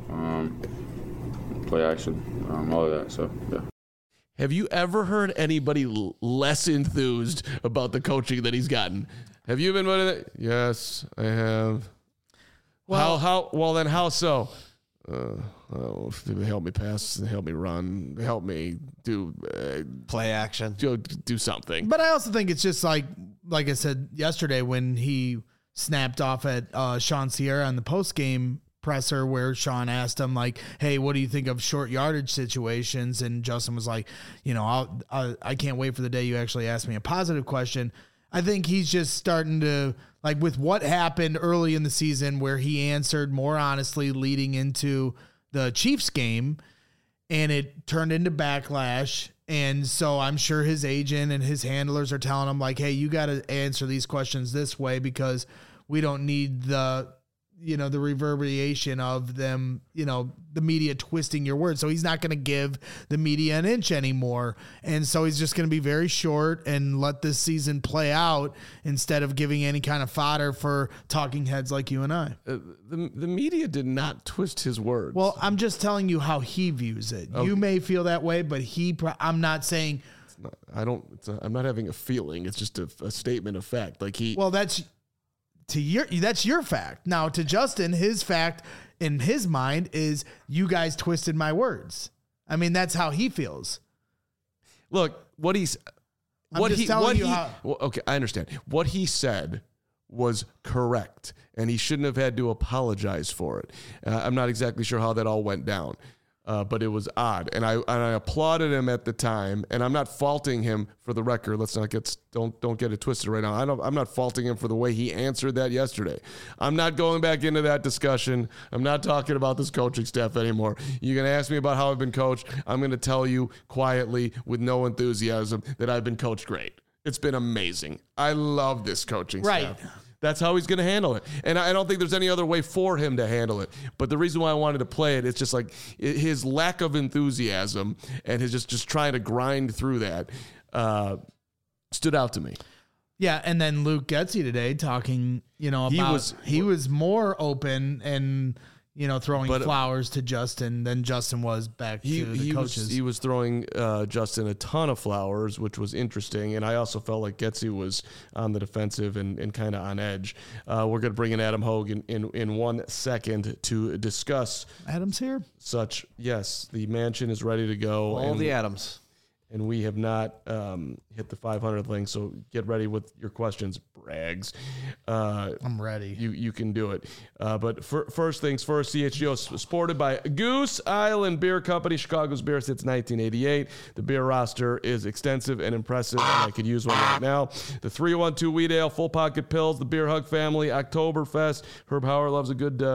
play action, all of that. So, yeah. Have you ever heard anybody less enthused about the coaching that he's gotten? Have you been one of that? Yes, I have. Well, how so? Help me pass, help me run, help me do play action, do something. But I also think it's just like I said yesterday when he snapped off at Sean Sierra on the post game presser where Sean asked him like, hey, what do you think of short yardage situations? And Justin was like, I can't wait for the day you actually ask me a positive question. I think he's just starting to, like, with what happened early in the season where he answered more honestly leading into the Chiefs game and it turned into backlash. And so I'm sure his agent and his handlers are telling him like, hey, you got to answer these questions this way because we don't need the the reverberation of them, the media twisting your words. So he's not going to give the media an inch anymore. And so he's just going to be very short and let this season play out instead of giving any kind of fodder for talking heads like you and I. The media did not twist his words. Well, I'm just telling you how he views it. Okay. You may feel that way, but I'm not saying. I'm not having a feeling. It's just a statement of fact. Well, that's your fact. Now to Justin, his fact in his mind is you guys twisted my words. I mean, that's how he feels. Look, okay, I understand. What he said was correct, and he shouldn't have had to apologize for it. I'm not exactly sure how that all went down. But it was odd, and I applauded him at the time, and I'm not faulting him for the record. Let's not don't get it twisted right now. I'm not faulting him for the way he answered that yesterday. I'm not going back into that discussion. I'm not talking about this coaching staff anymore. You're gonna ask me about how I've been coached. I'm gonna tell you quietly with no enthusiasm that I've been coached great. It's been amazing. I love this coaching staff. Right. That's how he's going to handle it. And I don't think there's any other way for him to handle it. But the reason why I wanted to play it, it's just like his lack of enthusiasm and his just trying to grind through that stood out to me. Yeah, and then Luke Getsy today talking, about he was more open and throwing flowers to Justin than Justin was back to the coaches. He was throwing Justin a ton of flowers, which was interesting. And I also felt like Getsy was on the defensive and kind of on edge. We're going to bring in Adam Hogue in 1 second to discuss. Adam's here? Yes, the mansion is ready to go. All the Adams. And we have not hit the 500 thing, so get ready with your questions, Braggs. I'm ready. You can do it. But first things first, CHGO supported by Goose Island Beer Company, Chicago's beer since 1988. The beer roster is extensive and impressive, and I could use one right now. The 312 Wheat Ale, Full Pocket Pills, the Beer Hug Family, Oktoberfest. Herb Hauer loves a good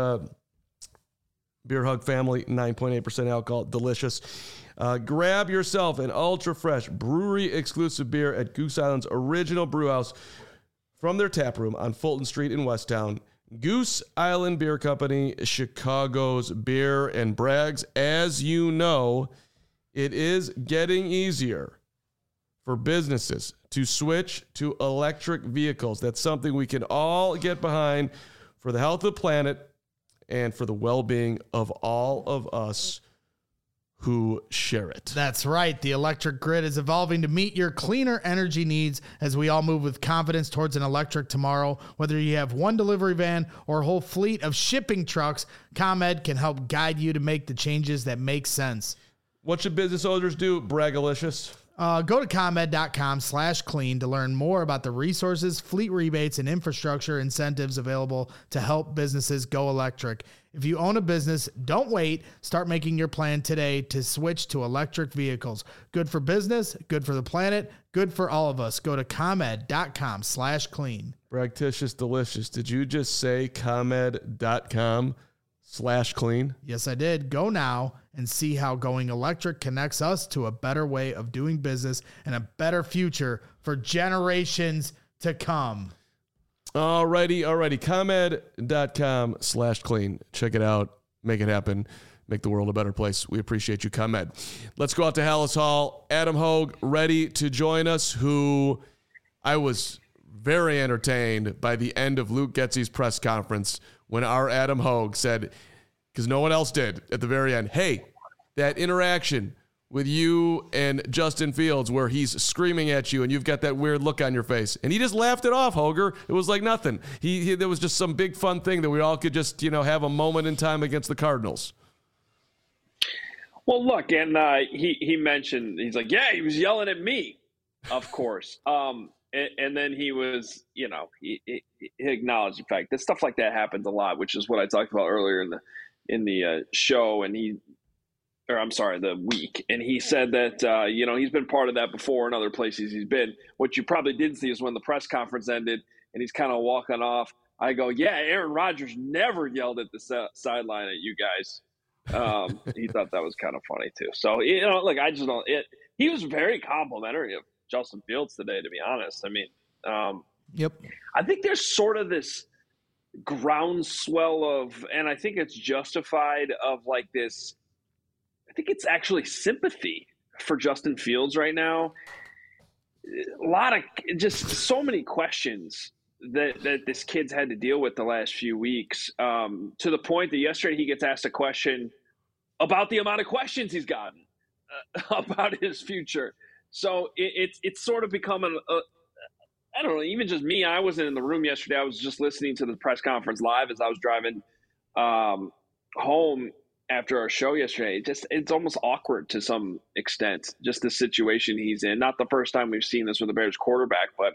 Beer Hug Family, 9.8% alcohol, delicious. Grab yourself an ultra-fresh brewery-exclusive beer at Goose Island's original brewhouse from their tap room on Fulton Street in Westtown. Goose Island Beer Company, Chicago's beer and Braggs. As you know, it is getting easier for businesses to switch to electric vehicles. That's something we can all get behind for the health of the planet and for the well-being of all of us who share it. That's right. The electric grid is evolving to meet your cleaner energy needs as we all move with confidence towards an electric tomorrow. Whether you have one delivery van or a whole fleet of shipping trucks, ComEd can help guide you to make the changes that make sense. What should business owners do, Bragalicious? Go to ComEd.com/clean to learn more about the resources, fleet rebates, and infrastructure incentives available to help businesses go electric. If you own a business, don't wait. Start making your plan today to switch to electric vehicles. Good for business, good for the planet, good for all of us. Go to ComEd.com/clean. Bragtitious delicious. Did you just say ComEd.com/clean? Yes, I did. Go now and see how going electric connects us to a better way of doing business and a better future for generations to come. Alrighty. ComEd.com/clean. Check it out. Make it happen. Make the world a better place. We appreciate you, ComEd. Let's go out to Hallis Hall. Adam Hogue ready to join us, who I was very entertained by the end of Luke Getsy's press conference when our Adam Hogue said, because no one else did at the very end, hey, that interaction with you and Justin Fields where he's screaming at you and you've got that weird look on your face. And he just laughed it off, Hoger. It was like nothing. There was just some big fun thing that we all could just, have a moment in time against the Cardinals. Well, look, and he mentioned, he's like, yeah, he was yelling at me, of course. And then he was, he acknowledged the fact that stuff like that happens a lot, which is what I talked about earlier in the show. And the week. And he said that, he's been part of that before in other places he's been. What you probably didn't see is when the press conference ended and he's kind of walking off. I go, yeah, Aaron Rodgers never yelled at the sideline at you guys. He thought that was kind of funny too. So, look, I just don't, he was very complimentary of Justin Fields today, to be honest. I mean, yep. I think there's sort of this groundswell of, and I think it's justified, of like this, I think it's actually sympathy for Justin Fields right now. A lot of, just so many questions that this kid's had to deal with the last few weeks, to the point that yesterday he gets asked a question about the amount of questions he's gotten about his future. So it's sort of become I don't know, even just me, I wasn't in the room yesterday. I was just listening to the press conference live as I was driving home after our show yesterday. It's almost awkward to some extent, just the situation he's in. Not the first time we've seen this with the Bears quarterback, but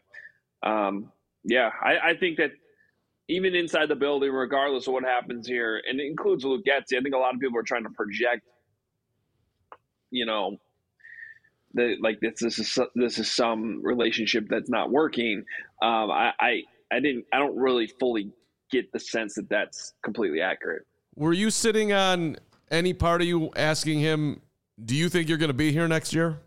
I think that even inside the building, regardless of what happens here, and it includes Luke Getsy, I think a lot of people are trying to project, like this is some relationship that's not working. I don't really fully get the sense that that's completely accurate. Were you sitting on any part of you asking him, do you think you're going to be here next year?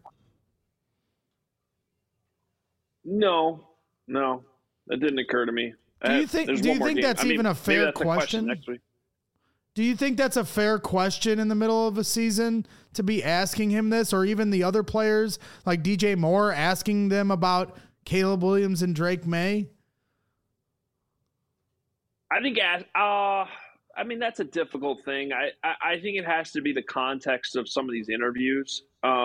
No, that didn't occur to me. Do you think that's even a fair question? Next week. Do you think that's a fair question in the middle of a season to be asking him this, or even the other players like DJ Moore asking them about Caleb Williams and Drake May? I think, that's a difficult thing. I think it has to be the context of some of these interviews.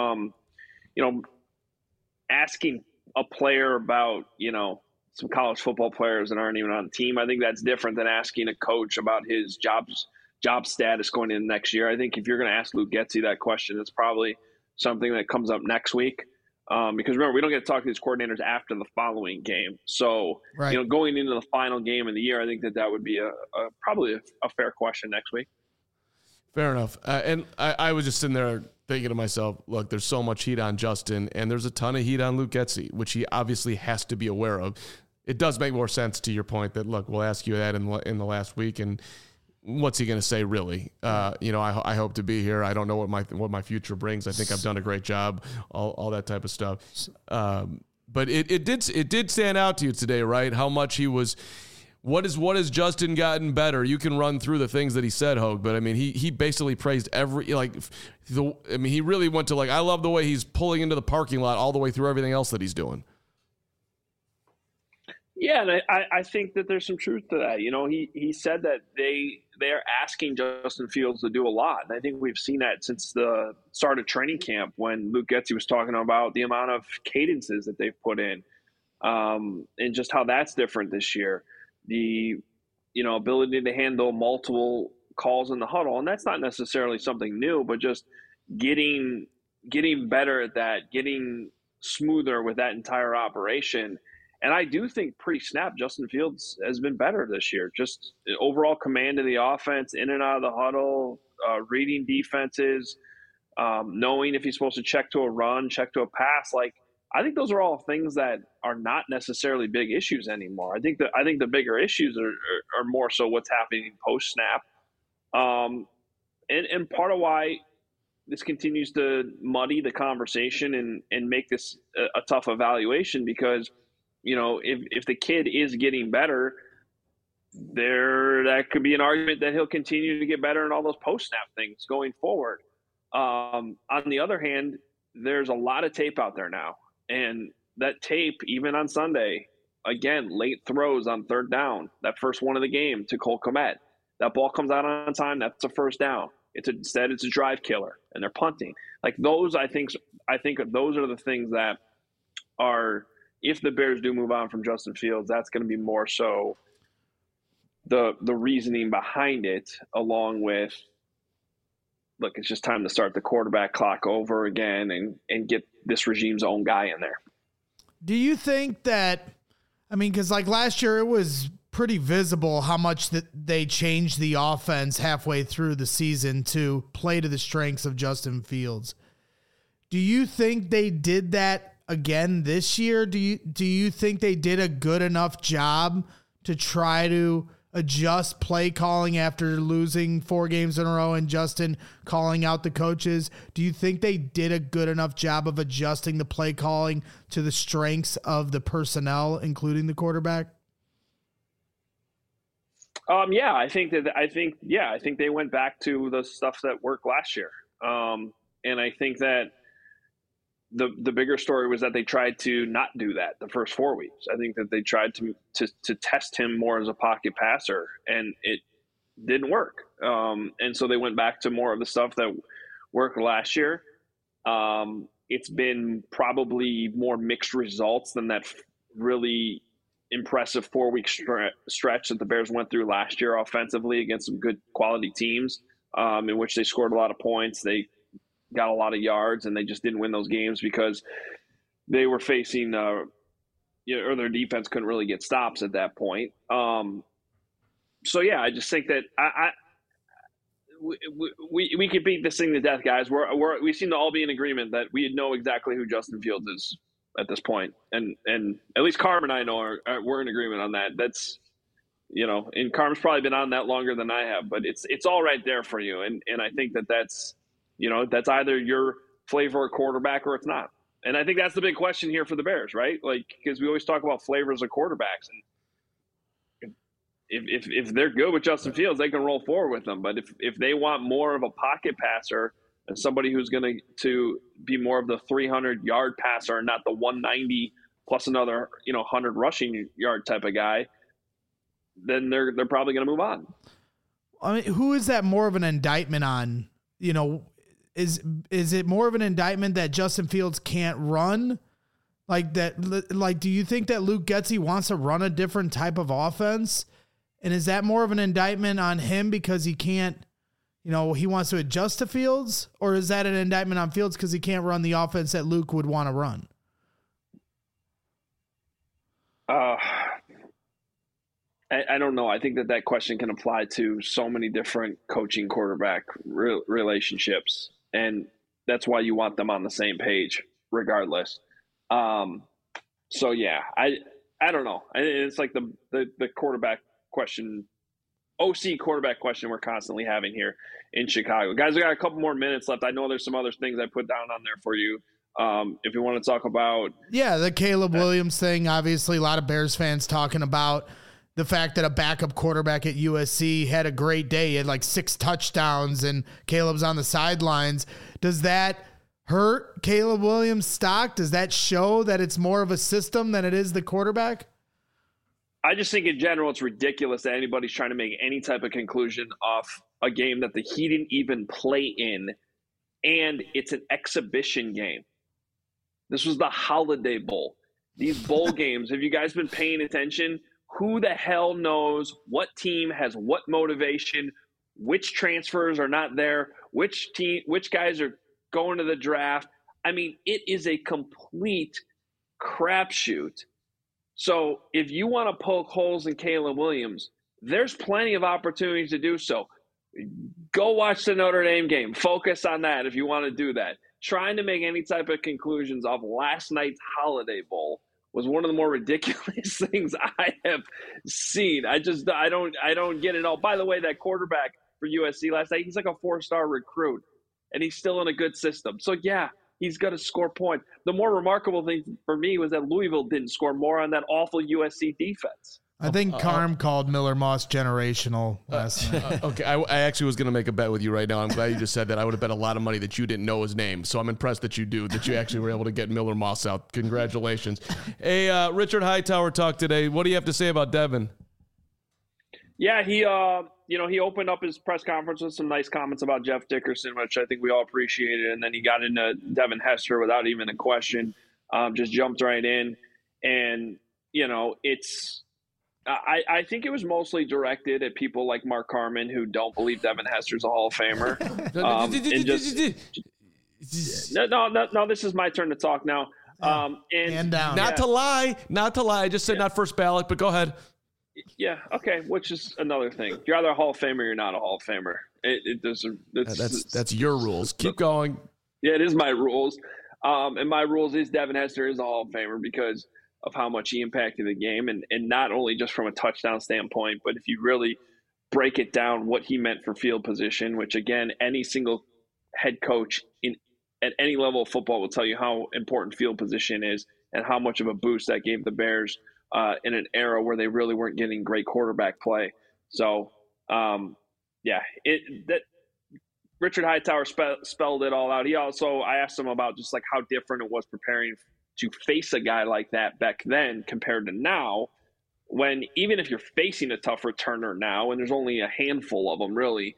Asking a player about, some college football players that aren't even on the team, I think that's different than asking a coach about his job status going into next year. I think if you're going to ask Luke Getsy that question, it's probably something that comes up next week. Because remember, we don't get to talk to these coordinators after the following game. So, right. Going into the final game of the year, I think that would be probably a fair question next week. Fair enough. And I was just sitting there thinking to myself, look, there's so much heat on Justin, and there's a ton of heat on Luke Getsy, which he obviously has to be aware of. It does make more sense to your point that, look, we'll ask you that in the last week, and what's he going to say, really? I hope to be here. I don't know what my future brings. I think I've done a great job, all that type of stuff. But it did stand out to you today, right? How much he was. What has Justin gotten better? You can run through the things that he said, Hogue, but I mean, he basically praised he really went to I love the way he's pulling into the parking lot all the way through everything else that he's doing. Yeah, and I think that there's some truth to that. He said that they're asking Justin Fields to do a lot. And I think we've seen that since the start of training camp when Luke Getsy was talking about the amount of cadences that they've put in, and just how that's different this year. The ability to handle multiple calls in the huddle, and that's not necessarily something new, but just getting better at that, getting smoother with that entire operation. And I do think pre-snap, Justin Fields has been better this year. Just overall command of the offense, in and out of the huddle, reading defenses, knowing if he's supposed to check to a run, check to a pass. I think those are all things that are not necessarily big issues anymore. I think the bigger issues are more so what's happening post-snap. And part of why this continues to muddy the conversation and make this a tough evaluation, because if the kid is getting better, that could be an argument that he'll continue to get better in all those post-snap things going forward. On the other hand, there's a lot of tape out there now. And that tape, even on Sunday, again, late throws on third down, that first one of the game to Cole Kmet. That ball comes out on time, that's a first down. Instead, it's a drive killer, and they're punting. Those, I think those are the things that are, if the Bears do move on from Justin Fields, that's going to be more so the reasoning behind it, along with, look, it's just time to start the quarterback clock over again and get this regime's own guy in there. Do you think that, because last year it was pretty visible how much that they changed the offense halfway through the season to play to the strengths of Justin Fields. Do you think they did that again this year? Do you think they did a good enough job to try to adjust play calling after losing 4 games in a row and Justin calling out the coaches? Do you think they did a good enough job of adjusting the play calling to the strengths of the personnel, including the quarterback? Yeah, I think they went back to the stuff that worked last year. And I think that the bigger story was that they tried to not do that the first 4 weeks. I think that they tried to test him more as a pocket passer, and it didn't work. And so they went back to more of the stuff that worked last year. It's been probably more mixed results than that really impressive 4-week stretch that the Bears went through last year offensively against some good quality teams, in which they scored a lot of points. They got a lot of yards, and they just didn't win those games because they were facing, or their defense couldn't really get stops at that point. So yeah, I just think that we could beat this thing to death, guys. We seem to all be in agreement that we know exactly who Justin Fields is at this point, and at least Carm and I know we're in agreement on that. That's, and Carm's probably been on that longer than I have, but it's all right there for you, and I think that's either your flavor of quarterback or it's not. And I think that's the big question here for the Bears, right? Like, because we always talk about flavors of quarterbacks, and if they're good with Justin Fields, they can roll forward with them. But if they want more of a pocket passer and somebody who's going to be more of the 300-yard passer and not the 190 plus another 100 rushing yard type of guy, then they're probably going to move on. I mean, who is that more of an indictment on? Is it more of an indictment that Justin Fields can't run? Like that? Like, do you think that Luke Getsy wants to run a different type of offense? And is that more of an indictment on him because he can't, he wants to adjust to Fields? Or is that an indictment on Fields because he can't run the offense that Luke would want to run? I don't know. I think that question can apply to so many different coaching quarterback relationships. And that's why you want them on the same page regardless. So yeah, I don't know. It's like the quarterback question, OC quarterback question we're constantly having here in Chicago. Guys, we got a couple more minutes left. I know there's some other things I put down on there for you. If you want to talk about. Yeah, the Caleb Williams thing, obviously a lot of Bears fans talking about the fact that a backup quarterback at USC had a great day. He had like 6 touchdowns and Caleb's on the sidelines. Does that hurt Caleb Williams' stock? Does that show that it's more of a system than it is the quarterback? I just think in general it's ridiculous that anybody's trying to make any type of conclusion off a game that he didn't even play in, and it's an exhibition game. This was the Holiday Bowl. These bowl games, have you guys been paying attention? Who the hell knows what team has what motivation, which transfers are not there, which guys are going to the draft? I mean, it is a complete crapshoot. So if you want to poke holes in Caleb Williams, there's plenty of opportunities to do so. Go watch the Notre Dame game. Focus on that if you want to do that. Trying to make any type of conclusions off last night's Holiday Bowl was one of the more ridiculous things I have seen. I don't get it all. By the way, that quarterback for USC last night, he's like a 4-star recruit, and he's still in a good system. So, yeah, he's going to score points. The more remarkable thing for me was that Louisville didn't score more on that awful USC defense. I think Carm called Miller Moss generational last night. Okay, I actually was going to make a bet with you right now. I'm glad you just said that. I would have bet a lot of money that you didn't know his name. So I'm impressed that you actually were able to get Miller Moss out. Congratulations. Hey, Richard Hightower talked today. What do you have to say about Devin? Yeah, he opened up his press conference with some nice comments about Jeff Dickerson, which I think we all appreciated. And then he got into Devin Hester without even a question, just jumped right in. And, I think it was mostly directed at people like Mark Carman who don't believe Devin Hester's a Hall of Famer. No, this is my turn to talk now. And down. Not to lie. I just said not first ballot, but go ahead. Yeah, okay, which is another thing. You're either a Hall of Famer or you're not a Hall of Famer. That's your rules. Keep going. Yeah, it is my rules. And my rules is Devin Hester is a Hall of Famer because of how much he impacted the game, and not only just from a touchdown standpoint, but if you really break it down what he meant for field position, which again, any single head coach at any level of football will tell you how important field position is and how much of a boost that gave the Bears in an era where they really weren't getting great quarterback play. So, that Richard Hightower spelled it all out. I asked him about just like how different it was preparing to face a guy like that back then compared to now, when even if you're facing a tough returner now, and there's only a handful of them really,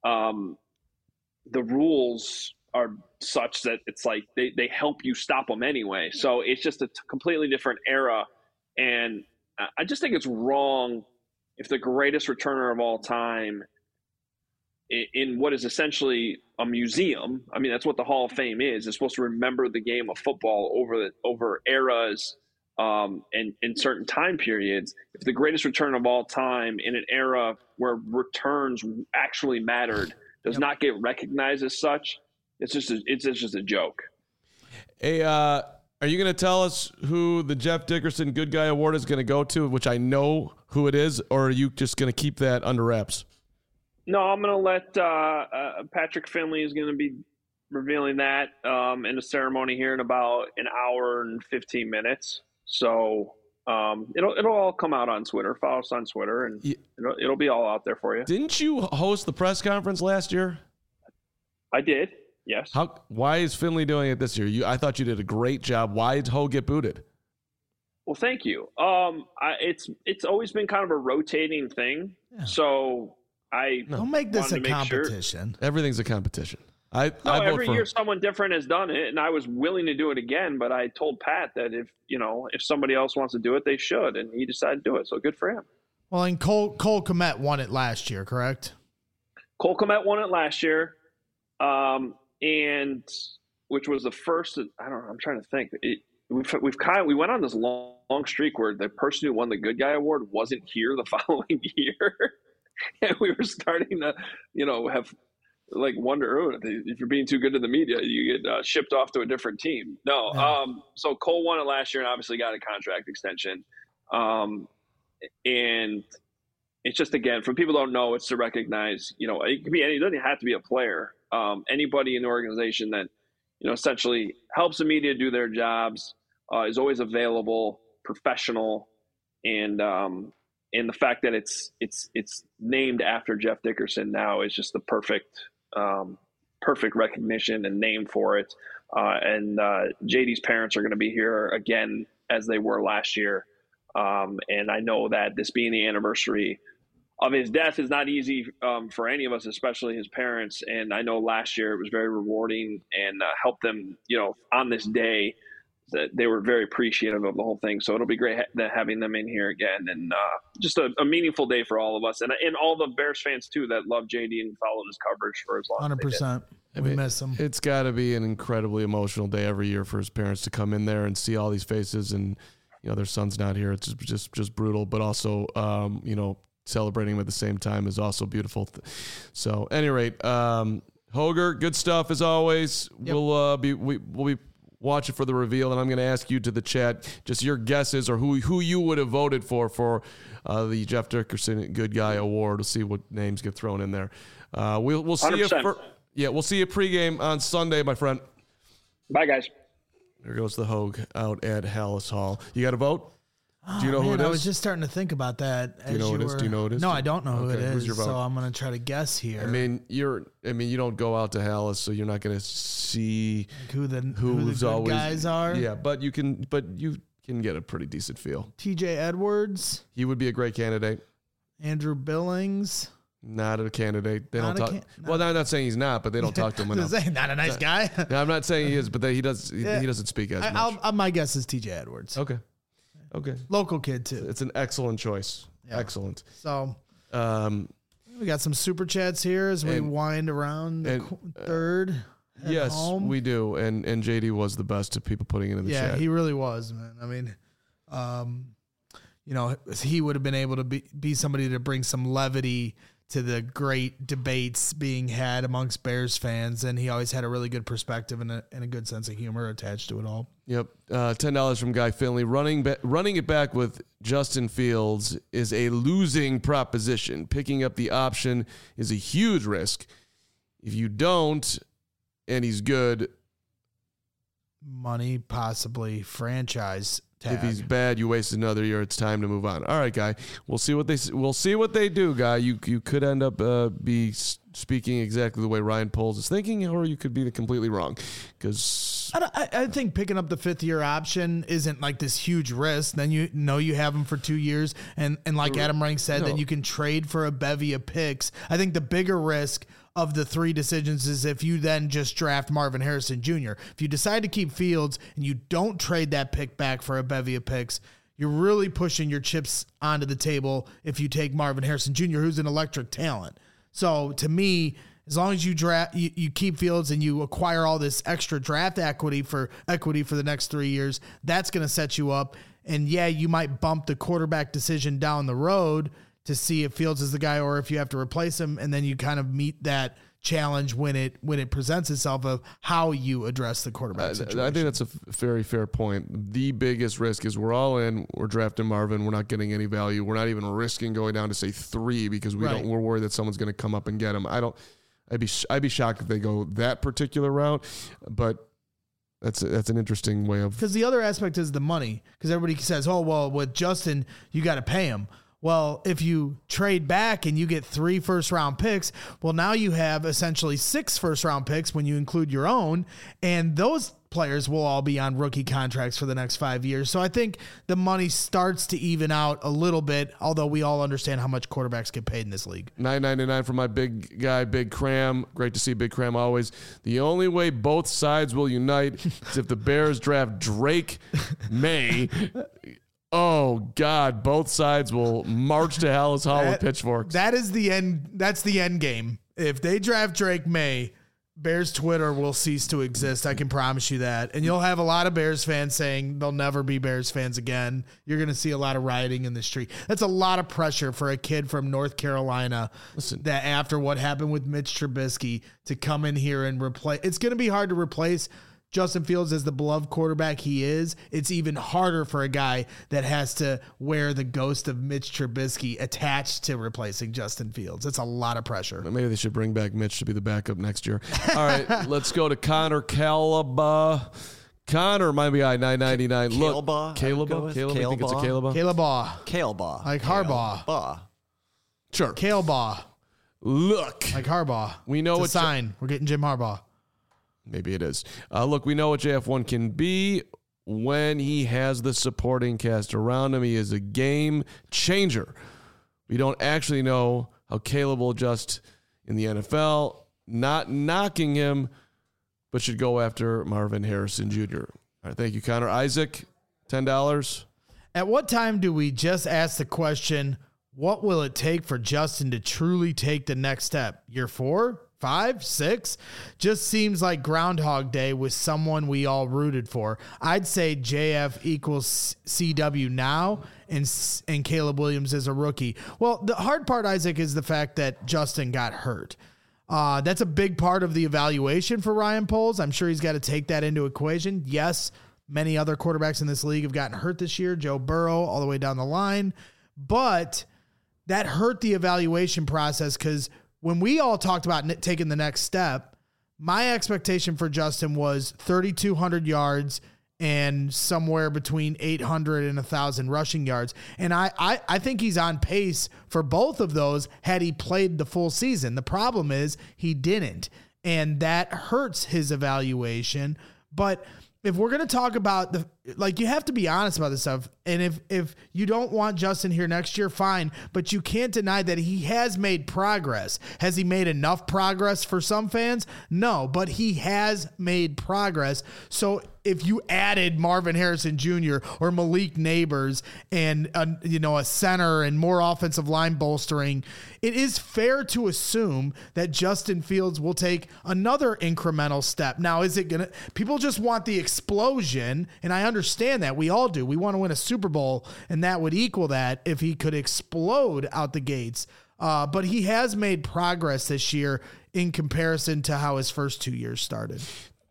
the rules are such that it's like they help you stop them anyway. So it's just a completely different era. And I just think it's wrong if the greatest returner of all time in what is essentially a museum, I mean, that's what the Hall of Fame is. It's supposed to remember the game of football over eras and in certain time periods. If the greatest return of all time in an era where returns actually mattered does not get recognized as such, it's just a joke. Hey, are you going to tell us who the Jeff Dickerson Good Guy Award is going to go to, which I know who it is, or are you just going to keep that under wraps? No, I'm going to let Patrick Finley is going to be revealing that in a ceremony here in about an hour and 15 minutes. So it'll all come out on Twitter. Follow us on Twitter, and it'll be all out there for you. Didn't you host the press conference last year? I did. Yes. Why is Finley doing it this year? I thought you did a great job. Why did Ho get booted? Well, thank you. It's always been kind of a rotating thing. Yeah. So don't make this a competition. Sure. Everything's a competition. Every year someone different has done it, and I was willing to do it again. But I told Pat that if somebody else wants to do it, they should, and he decided to do it. So good for him. Well, and Cole Kmet won it last year, correct? Cole Kmet won it last year. And which was the first, I don't know, I'm trying to think. We went on this long streak where the person who won the Good Guy Award wasn't here the following year. And we were starting to, have like wonder, if you're being too good to the media, you get shipped off to a different team. No. Yeah. So Cole won it last year and obviously got a contract extension. And it's just, again, for people who don't know, it's to recognize, it could be it doesn't have to be a player. Anybody in the organization that, essentially helps the media do their jobs, is always available, professional, and the fact that it's named after Jeff Dickerson now is just the perfect recognition and name for it. And JD's parents are going to be here again as they were last year. And I know that this being the anniversary of his death is not easy for any of us, especially his parents. And I know last year it was very rewarding and helped them, on this day, that they were very appreciative of the whole thing. So it'll be great having them in here again, and just a meaningful day for all of us, and all the Bears fans too that love JD and followed his coverage for as long. 100%. We miss him. It's got to be an incredibly emotional day every year for his parents to come in there and see all these faces, and their son's not here. It's just brutal, but also celebrating him at the same time is also beautiful. So, at any rate, Hoger, good stuff as always. Yep. We'll be watching for the reveal, and I'm going to ask you to the chat just your guesses or who you would have voted for the Jeff Dickerson Good Guy Award. We'll see what names get thrown in there. We'll see 100%. We'll see you pregame on Sunday, my friend. Bye, guys. There goes the Hogue out at Halas Hall. You got a vote? Do you know who it is? I was just starting to think about that. Do you know who it is? Do you know who it is? No, I don't know who it is. Who's your vote? So I'm going to try to guess here. You don't go out to Halas, so you're not going to see who the good guys are. Yeah, but you can get a pretty decent feel. TJ Edwards. He would be a great candidate. Andrew Billings. Not a candidate. They don't talk. Well, I'm not saying he's not, but they don't talk to him enough. Not a nice guy. No, I'm not saying he is, but he does. He doesn't speak as much. My guess is TJ Edwards. Okay. Local kid too. It's an excellent choice. Yeah. Excellent. So, we got some super chats here as we wind around the third. Yes, home. We do. And JD was the best at people putting it in the chat. Yeah, he really was, man. I mean, he would have been able to be somebody to bring some levity to the great debates being had amongst Bears fans, and he always had a really good perspective and a good sense of humor attached to it all. Yep. $10 from Guy Finley. Running it back with Justin Fields is a losing proposition. Picking up the option is a huge risk. If you don't, and he's good, money, possibly franchise tag. If he's bad, you waste another year. It's time to move on. All right, Guy. We'll see what they do, Guy. You could end up be speaking exactly the way Ryan Poles is thinking, or you could be completely wrong. Because I think picking up the 5th-year option isn't like this huge risk. Then you know you have him for 2 years, and like Adam Rank said, then you can trade for a bevy of picks. I think the bigger risk of the 3 decisions is if you then just draft Marvin Harrison Jr. If you decide to keep Fields and you don't trade that pick back for a bevy of picks, you're really pushing your chips onto the table if you take Marvin Harrison Jr., who's an electric talent. So to me, as long as you draft, you keep Fields and you acquire all this extra draft equity for the next 3 years, that's going to set you up. And yeah, you might bump the quarterback decision down the road to see if Fields is the guy or if you have to replace him, and then you kind of meet that challenge when it presents itself of how you address the quarterback situation. I think that's a very fair point. The biggest risk is we're all in. We're drafting Marvin. We're not getting any value. We're not even risking going down to say 3 because we're worried that someone's going to come up and get him. I'd be shocked if they go that particular route, but that's an interesting way of. Because the other aspect is the money. Because everybody says, "Oh well, with Justin, you got to pay him." Well, if you trade back and you get 3 first-round picks, well, now you have essentially 6 first-round picks when you include your own, and those players will all be on rookie contracts for the next 5 years. So I think the money starts to even out a little bit, although we all understand how much quarterbacks get paid in this league. $9.99 for my big guy, Big Cram. Great to see Big Cram always. The only way both sides will unite is if the Bears draft Drake May. Oh God! Both sides will march to Hallis Hall with pitchforks. That is the end. That's the end game. If they draft Drake May, Bears Twitter will cease to exist. I can promise you that. And you'll have a lot of Bears fans saying they'll never be Bears fans again. You're going to see a lot of rioting in the street. That's a lot of pressure for a kid from North Carolina. Listen, that after what happened with Mitch Trubisky to come in here and replace. It's going to be hard to replace Justin Fields as the beloved quarterback he is. It's even harder for a guy that has to wear the ghost of Mitch Trubisky attached to replacing Justin Fields. It's a lot of pressure. Maybe they should bring back Mitch to be the backup next year. All right, let's go to Connor Calaba. Connor, my guy, $9.99. Look, Caleb. I think it's a Caleb. Caleb. Like Harbaugh. Sure. Caleb. Look. Like Harbaugh. We know it's a sign. We're getting Jim Harbaugh. Maybe it is. Look, we know what JF1 can be when he has the supporting cast around him. He is a game changer. We don't actually know how Caleb will adjust in the NFL. Not knocking him, but should go after Marvin Harrison Jr. All right, thank you, Connor. Isaac, $10. At what time do we just ask the question, what will it take for Justin to truly take the next step? Year 4? 5, 6, just seems like Groundhog Day with someone we all rooted for. I'd say JF equals CW now, and Caleb Williams is a rookie. Well, the hard part, Isaac, is the fact that Justin got hurt. That's a big part of the evaluation for Ryan Poles. I'm sure he's got to take that into equation. Yes, many other quarterbacks in this league have gotten hurt this year, Joe Burrow all the way down the line, but that hurt the evaluation process because when we all talked about taking the next step, my expectation for Justin was 3,200 yards and somewhere between 800 and 1,000 rushing yards. And I think he's on pace for both of those had he played the full season. The problem is he didn't, and that hurts his evaluation. But if we're going to talk about you have to be honest about this stuff. And if you don't want Justin here next year, fine. But you can't deny that he has made progress. Has he made enough progress for some fans? No, but he has made progress. So if you added Marvin Harrison Jr. or Malik Neighbors and a center and more offensive line bolstering, it is fair to assume that Justin Fields will take another incremental step. Now, is it gonna? People just want the explosion, and I understand that. We all do. We want to win a Super Bowl, and that would equal that if he could explode out the gates. But he has made progress this year in comparison to how his first 2 years started.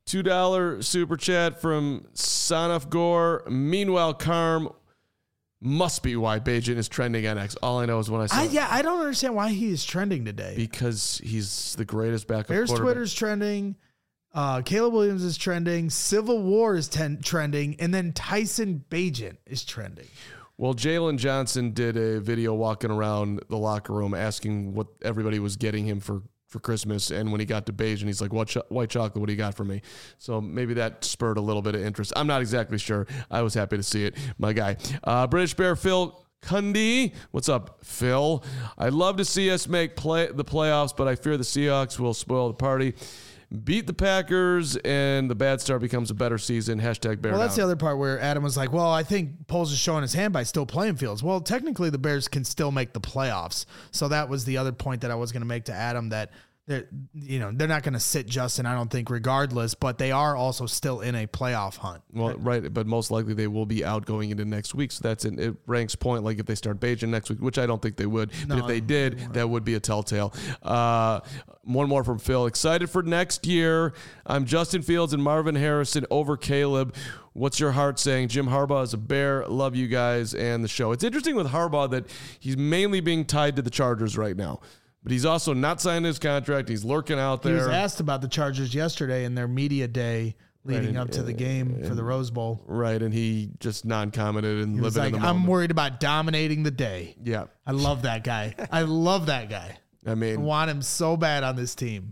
$2 super chat from Sanaf Gore. Meanwhile, Carm must be why Bajan is trending on X. All I know is when I saw I don't understand why he is trending today. Because he's the greatest backup Bears quarterback. Twitter's trending. Caleb Williams is trending. Civil War is trending. And then Tyson Bagent is trending. Well, Jalen Johnson did a video walking around the locker room asking what everybody was getting him for Christmas. And when he got to Beige, and he's like, white chocolate, what do you got for me? So maybe that spurred a little bit of interest. I'm not exactly sure. I was happy to see it, my guy. British Bear Phil Cundy. What's up, Phil? I'd love to see us make the playoffs, but I fear the Seahawks will spoil the party. Beat the Packers, and the bad start becomes a better season. Hashtag Bear Well, that's down. the other part where Adam was like, well, I think Poles is showing his hand by still playing Fields. Well, technically the Bears can still make the playoffs. So that was the other point that I was going to make to Adam, that they're not going to sit Justin, I don't think, regardless, but they are also still in a playoff hunt. Well, right, but most likely they will be out going into next week. So it ranks point, like if they start Bajan next week, which I don't think they would. But if they did, that would be a telltale. One more from Phil. Excited for next year. I'm Justin Fields and Marvin Harrison over Caleb. What's your heart saying? Jim Harbaugh is a Bear. Love you guys and the show. It's interesting with Harbaugh that he's mainly being tied to the Chargers right now. But he's also not signed his contract. He's lurking out there. He was asked about the Chargers yesterday in their media day leading up to the game for the Rose Bowl. Right, and he just non-commented and living in the moment. I'm worried about dominating the day. Yeah. I love that guy. I love that guy. I mean, I want him so bad on this team.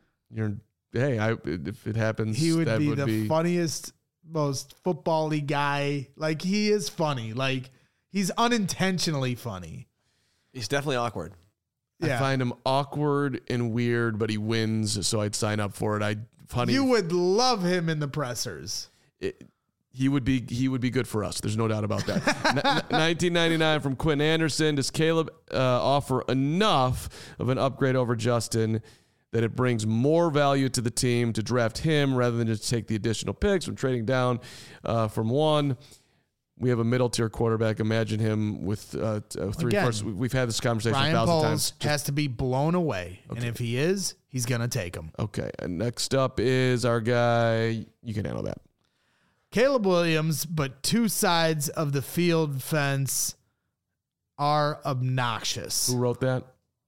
If it happens, he would that be would the funniest, most football-y guy. Like, he is funny. Like, he's unintentionally funny. He's definitely awkward. I find him awkward and weird, but he wins, so I'd sign up for it. You would love him in the pressers. He would be good for us. There's no doubt about that. 1999 from Quinn Anderson. Does Caleb offer enough of an upgrade over Justin that it brings more value to the team to draft him rather than just take the additional picks from trading down from one? We have a middle-tier quarterback. Imagine him with three firsts. We've had this conversation Ryan 1,000 Poles times. has to be blown away. Okay. And if he is, he's going to take him. Okay. And next up is our guy. You can handle that. Caleb Williams, but two sides of the field fence are obnoxious. Who wrote that?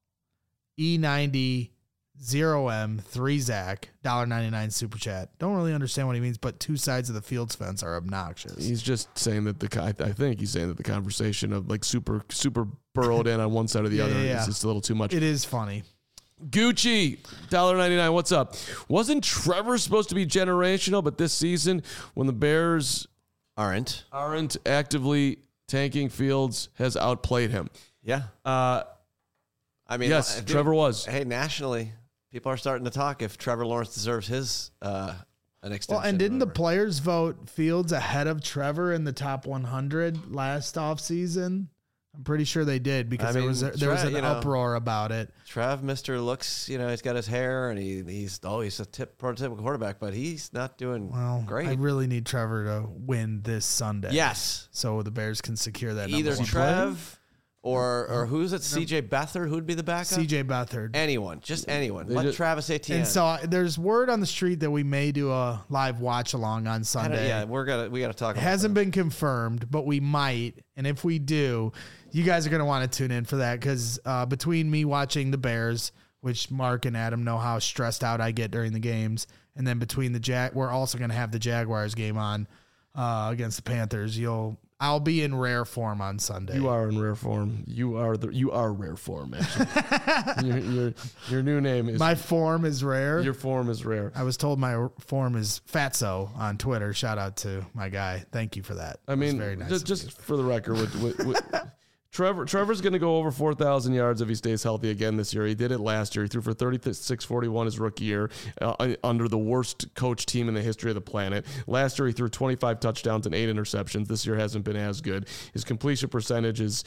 E90 0M 3 Zach $1.99 super chat. Don't really understand what he means, but two sides of the field fence are obnoxious. He's just saying that I think he's saying that the conversation of like super burrowed in on one side or the other is just a little too much. It is funny. Gucci $1.99. What's up? Wasn't Trevor supposed to be generational, but this season when the Bears aren't actively tanking, Fields has outplayed him. Yeah. I mean, yes, Trevor was. Hey, nationally, people are starting to talk if Trevor Lawrence deserves his an extension. Well, and didn't the players vote Fields ahead of Trevor in the top 100 last offseason? I'm pretty sure they did because there was an uproar about it. Trev, Mr. looks, he's got his hair and he's a prototypical quarterback, but he's not doing great. I really need Trevor to win this Sunday. Yes. So the Bears can secure that. Either Trev or who's it? CJ Beathard, who'd be the backup? CJ Beathard. Anyone. Let Travis Etienne. And so there's word on the street that we may do a live watch along on Sunday. Yeah, we got to talk about it. It hasn't been confirmed, but we might. And if we do, you guys are going to want to tune in for that because between me watching the Bears, which Mark and Adam know how stressed out I get during the games, and then between we're also going to have the Jaguars game on against the Panthers. I'll be in rare form on Sunday. You are in rare form. You are rare form. Actually, your new name is. My form is rare. Your form is rare. I was told my form is Fatso on Twitter. Shout out to my guy. Thank you for that. I mean, very nice just for the record, with Trevor's going to go over 4,000 yards if he stays healthy again this year. He did it last year. He threw for 36.41 his rookie year under the worst coach team in the history of the planet. Last year, he threw 25 touchdowns and 8 interceptions. This year hasn't been as good. His completion percentage is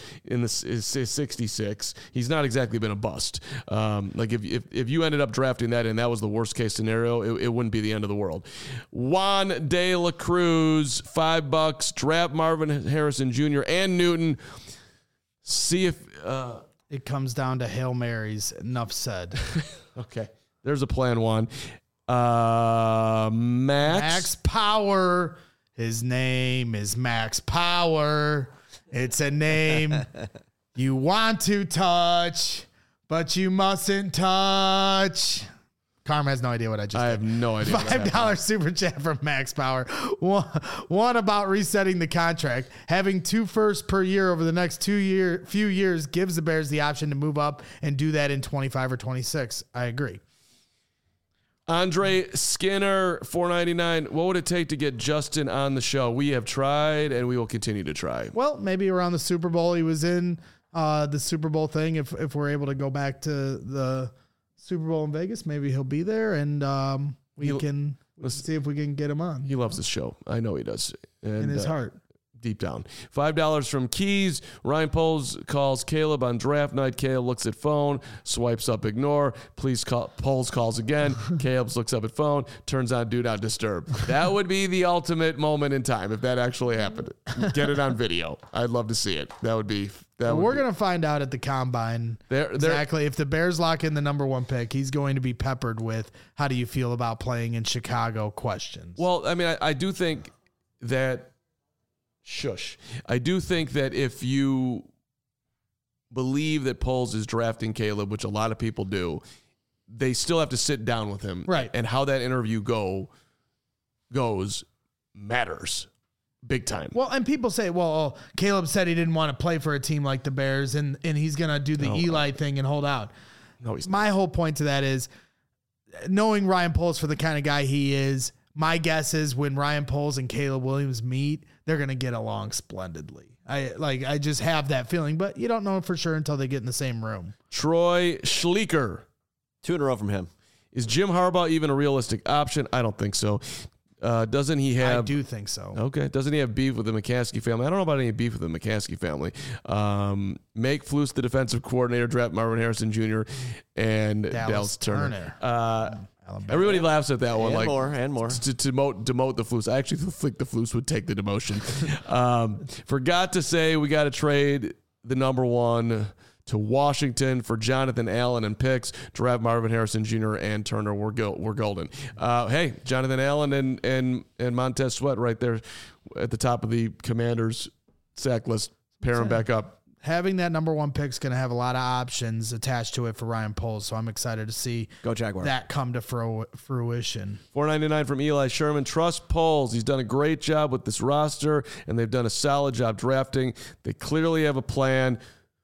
66. He's not exactly been a bust. Like if you ended up drafting that and that was the worst case scenario, it wouldn't be the end of the world. Juan De La Cruz, $5. Draft Marvin Harrison Jr. and Newton. See if it comes down to Hail Marys. Enough said. Okay. There's a plan, Juan. Max Power. His name is Max Power. It's a name you want to touch, but you mustn't touch. Carm has no idea what I just I did. have no idea. $5 super chat from Max Power. One about resetting the contract. Having 2 firsts per year over the next few years gives the Bears the option to move up and do that in 25 or 26. I agree. Andre Skinner, $4.99. What would it take to get Justin on the show? We have tried and we will continue to try. Well, maybe around the Super Bowl. He was in the Super Bowl thing. If we're able to go back to the Super Bowl in Vegas, maybe he'll be there, and we can see if we can get him on. He loves this show. I know he does. And, in his heart. Deep down. $5 from Keys. Ryan Poles calls Caleb on draft night. Caleb looks at phone, swipes up ignore. Please call. Poles calls again. Caleb looks up at phone, turns on do not disturb. That would be the ultimate moment in time if that actually happened. Get it on video. I'd love to see it. That would be. We're going to find out at the combine exactly. If the Bears lock in the number 1 pick, he's going to be peppered with how do you feel about playing in Chicago questions. Well, I mean, I do think that I do think that if you believe that Poles is drafting Caleb, which a lot of people do, they still have to sit down with him. Right. And how that interview goes matters big time. Well, and people say, well, Caleb said he didn't want to play for a team like the Bears, and he's going to do the Eli thing and hold out. No, he's My whole point to that is, knowing Ryan Poles for the kind of guy he is, my guess is when Ryan Poles and Caleb Williams meet, they're going to get along splendidly. I just have that feeling, but you don't know for sure until they get in the same room. Troy Schleeker. 2 in a row from him. Is Jim Harbaugh even a realistic option? I don't think so. Doesn't he have... I do think so. Okay. Doesn't he have beef with the McCaskey family? I don't know about any beef with the McCaskey family. Make Flus the defensive coordinator, draft Marvin Harrison Jr. and Dallas Turner. Everybody laughs at that one. And more. To demote the Flus. I actually think the Flus would take the demotion. Forgot to say we got to trade the number 1 to Washington for Jonathan Allen and picks. Draft Marvin Harrison Jr. and Turner. We're golden. Hey, Jonathan Allen and Montez Sweat right there at the top of the Commanders sack list. Pair them back up. Having that number 1 pick is going to have a lot of options attached to it for Ryan Poles, so I'm excited to see that come to fruition. $4.99 from Eli Sherman. Trust Poles. He's done a great job with this roster, and they've done a solid job drafting. They clearly have a plan.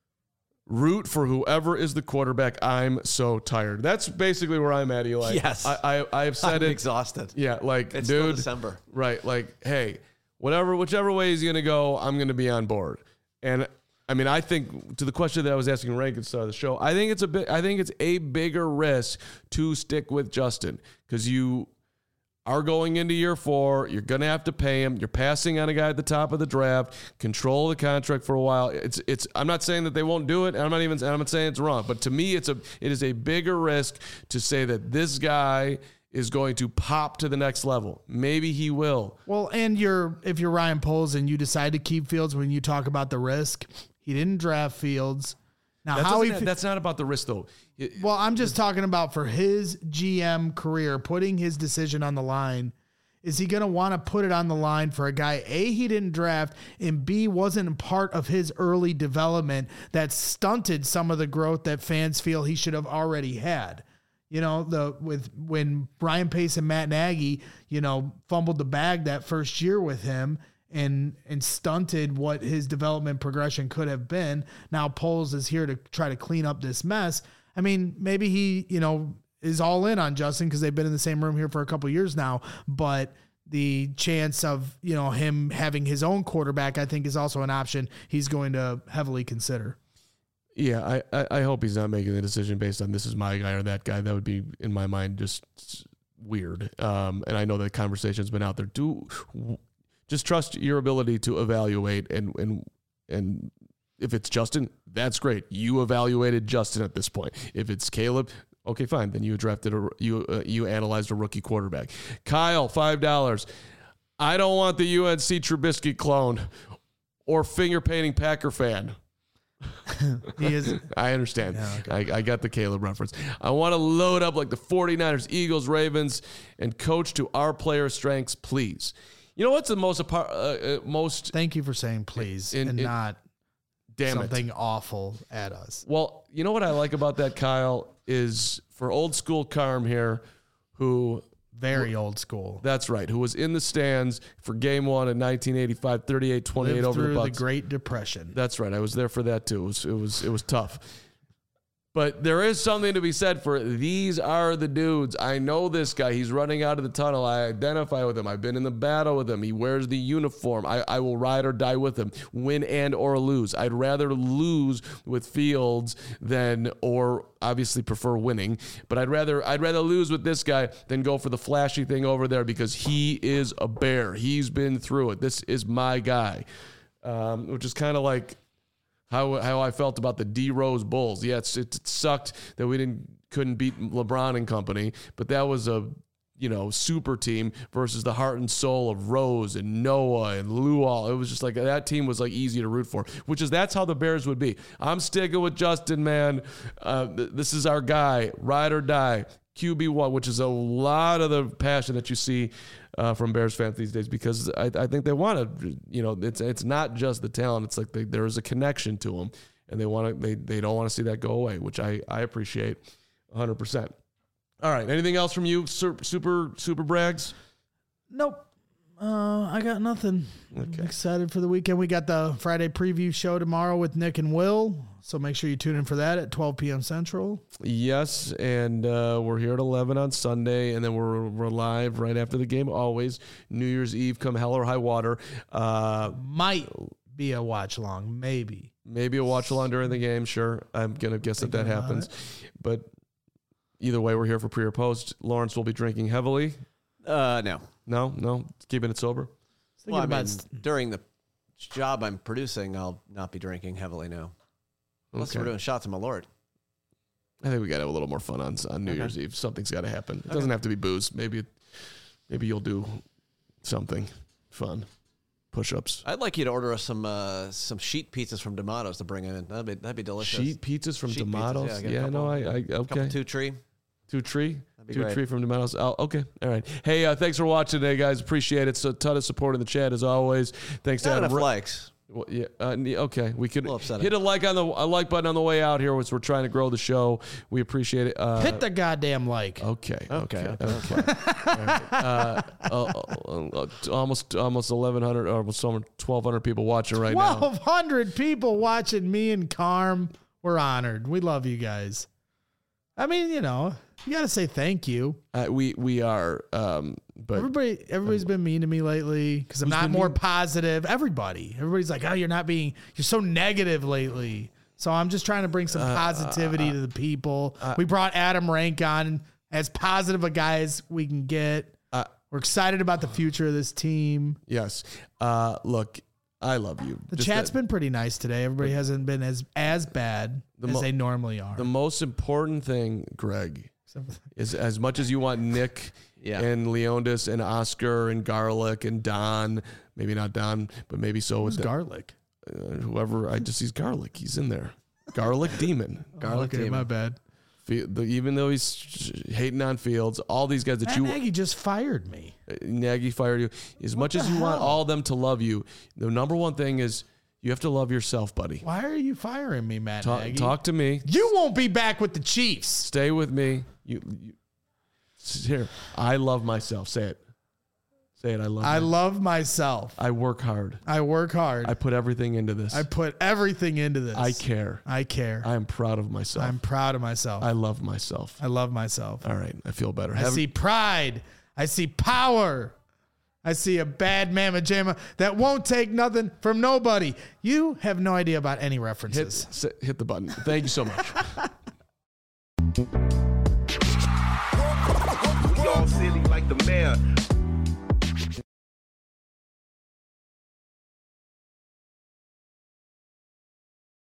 Root for whoever is the quarterback. I'm so tired. That's basically where I'm at, Eli. Yes. I've said I'm exhausted. Yeah, like, it's dude. Still December. Right, like, hey, whichever way he's going to go, I'm going to be on board. And I mean, I think to the question that I was asking Rank at the start of the show, I think it's a bigger risk to stick with Justin because you are going into year 4. You're going to have to pay him. You're passing on a guy at the top of the draft. Control the contract for a while. It's. I'm not saying that they won't do it. I'm not saying it's wrong. But to me, it is a bigger risk to say that this guy is going to pop to the next level. Maybe he will. Well, and if you're Ryan Poles and you decide to keep Fields, when you talk about the risk, he didn't draft Fields. Now, that's not about the risk, though. Well, I'm just talking about for his GM career, putting his decision on the line. Is he going to want to put it on the line for a guy, A, he didn't draft, and B, wasn't part of his early development that stunted some of the growth that fans feel he should have already had? You know, when Brian Pace and Matt Nagy, fumbled the bag that first year with him, and stunted what his development progression could have been. Now Poles is here to try to clean up this mess. I mean, maybe he, is all in on Justin because they've been in the same room here for a couple of years now, but the chance of, him having his own quarterback, I think is also an option he's going to heavily consider. Yeah. I hope he's not making the decision based on this is my guy or that guy. That would be, in my mind, just weird. And I know that conversation's been out there. Just trust your ability to evaluate, and if it's Justin, that's great. You evaluated Justin at this point. If it's Caleb, okay, fine. Then you drafted you analyzed a rookie quarterback. Kyle, $5. I don't want the UNC Trubisky clone or finger painting Packer fan. He is. I understand. Yeah, okay. I got the Caleb reference. I want to load up like the 49ers, Eagles, Ravens, and coach to our player strengths, please. You know what's the most Thank you for saying please and not something awful at us. Well, you know what I like about that, Kyle? is for old school Carm here, who Very old school. that's right, who was in the stands for Game 1 in 1985, 38-28 Lived over the through Bucks. the Great Depression. That's right. I was there for that too. It was tough. But there is something to be said for these are the dudes. I know this guy. He's running out of the tunnel. I identify with him. I've been in the battle with him. He wears the uniform. I will ride or die with him, win and or lose. I'd rather lose with Fields than, or obviously prefer winning, but I'd rather lose with this guy than go for the flashy thing over there because he is a bear. He's been through it. This is my guy, which is kind of like how I felt about the D Rose Bulls. Yeah, it sucked that we couldn't beat LeBron and company, but that was a super team versus the heart and soul of Rose and Noah and Luol. It was just like that team was like easy to root for, that's how the Bears would be. I'm sticking with Justin, man. This is our guy, ride or die. QB1, which is a lot of the passion that you see from Bears fans these days, because I think they want to, it's not just the talent. It's like there is a connection to them, and they don't want to see that go away, which I appreciate 100%. All right. Anything else from you, Super Brags? Nope. I got nothing. Okay. I'm excited for the weekend. We got the Friday preview show tomorrow with Nick and Will, so make sure you tune in for that at 12 p.m. Central. Yes, and we're here at 11 on Sunday, and then we're live right after the game, always. New Year's Eve, come hell or high water. Might be a watch-along, maybe. Maybe a watch-along during the game, sure. I'm going to guess that happens. But either way, we're here for pre or post. Lawrence will be drinking heavily. No, keeping it sober. Well, during the job I'm producing, I'll not be drinking heavily now. Unless we're doing shots of my Lord. I think we got to have a little more fun on New Year's Eve. Something's got to happen. It doesn't have to be booze. Maybe you'll do something fun. Push-ups. I'd like you to order us some sheet pizzas from D'Amato's to bring in. That'd be delicious. Sheet pizzas from D'Amato's? Yeah, okay. Couple two tree. Two tree? That'd be great. Tree from D'Amato's. Oh, okay. All right. Hey, thanks for watching today, guys. Appreciate it. So a ton of support in the chat as always. Thanks to Adam. Likes. Well, yeah. Okay. We could hit a like button on the way out here, which we're trying to grow the show. We appreciate it. Hit the goddamn like. Okay. Almost 1,100, almost 1,200 people watching right now. 1,200 people watching me and Carm. We're honored. We love you guys. I mean, you got to say thank you. We are, but everybody's been mean to me lately because I'm not more positive. Everybody's like, oh, you're so negative lately. So I'm just trying to bring some positivity to the people. We brought Adam Rank on, as positive a guy as we can get. We're excited about the future of this team. Yes. Look, I love you. The chat's been pretty nice today. Everybody hasn't been as bad as they normally are. The most important thing, Greg, is as much as you want Nick and Leondis and Oscar and Garlic and Don, maybe not Don, but maybe so. Who's Garlic? Whoever, he's Garlic. He's in there. Garlic Demon. Garlic Demon. My bad. Even though he's hating on Fields, all these guys that Nagy just fired me. Nagy fired you. As much as you want all of them to love you, the number one thing is you have to love yourself, buddy. Why are you firing me, Matt Nagy? Talk to me. You won't be back with the Chiefs. Stay with me. Here. I love myself. Say it. Say it. I love myself. I work hard. I put everything into this. I care. I am proud of myself. I love myself. All right. I feel better. I see pride. I see power. I see a bad mamma jamma that won't take nothing from nobody. You have no idea about any references. Hit the button. Thank you so much. We all silly like the mayor.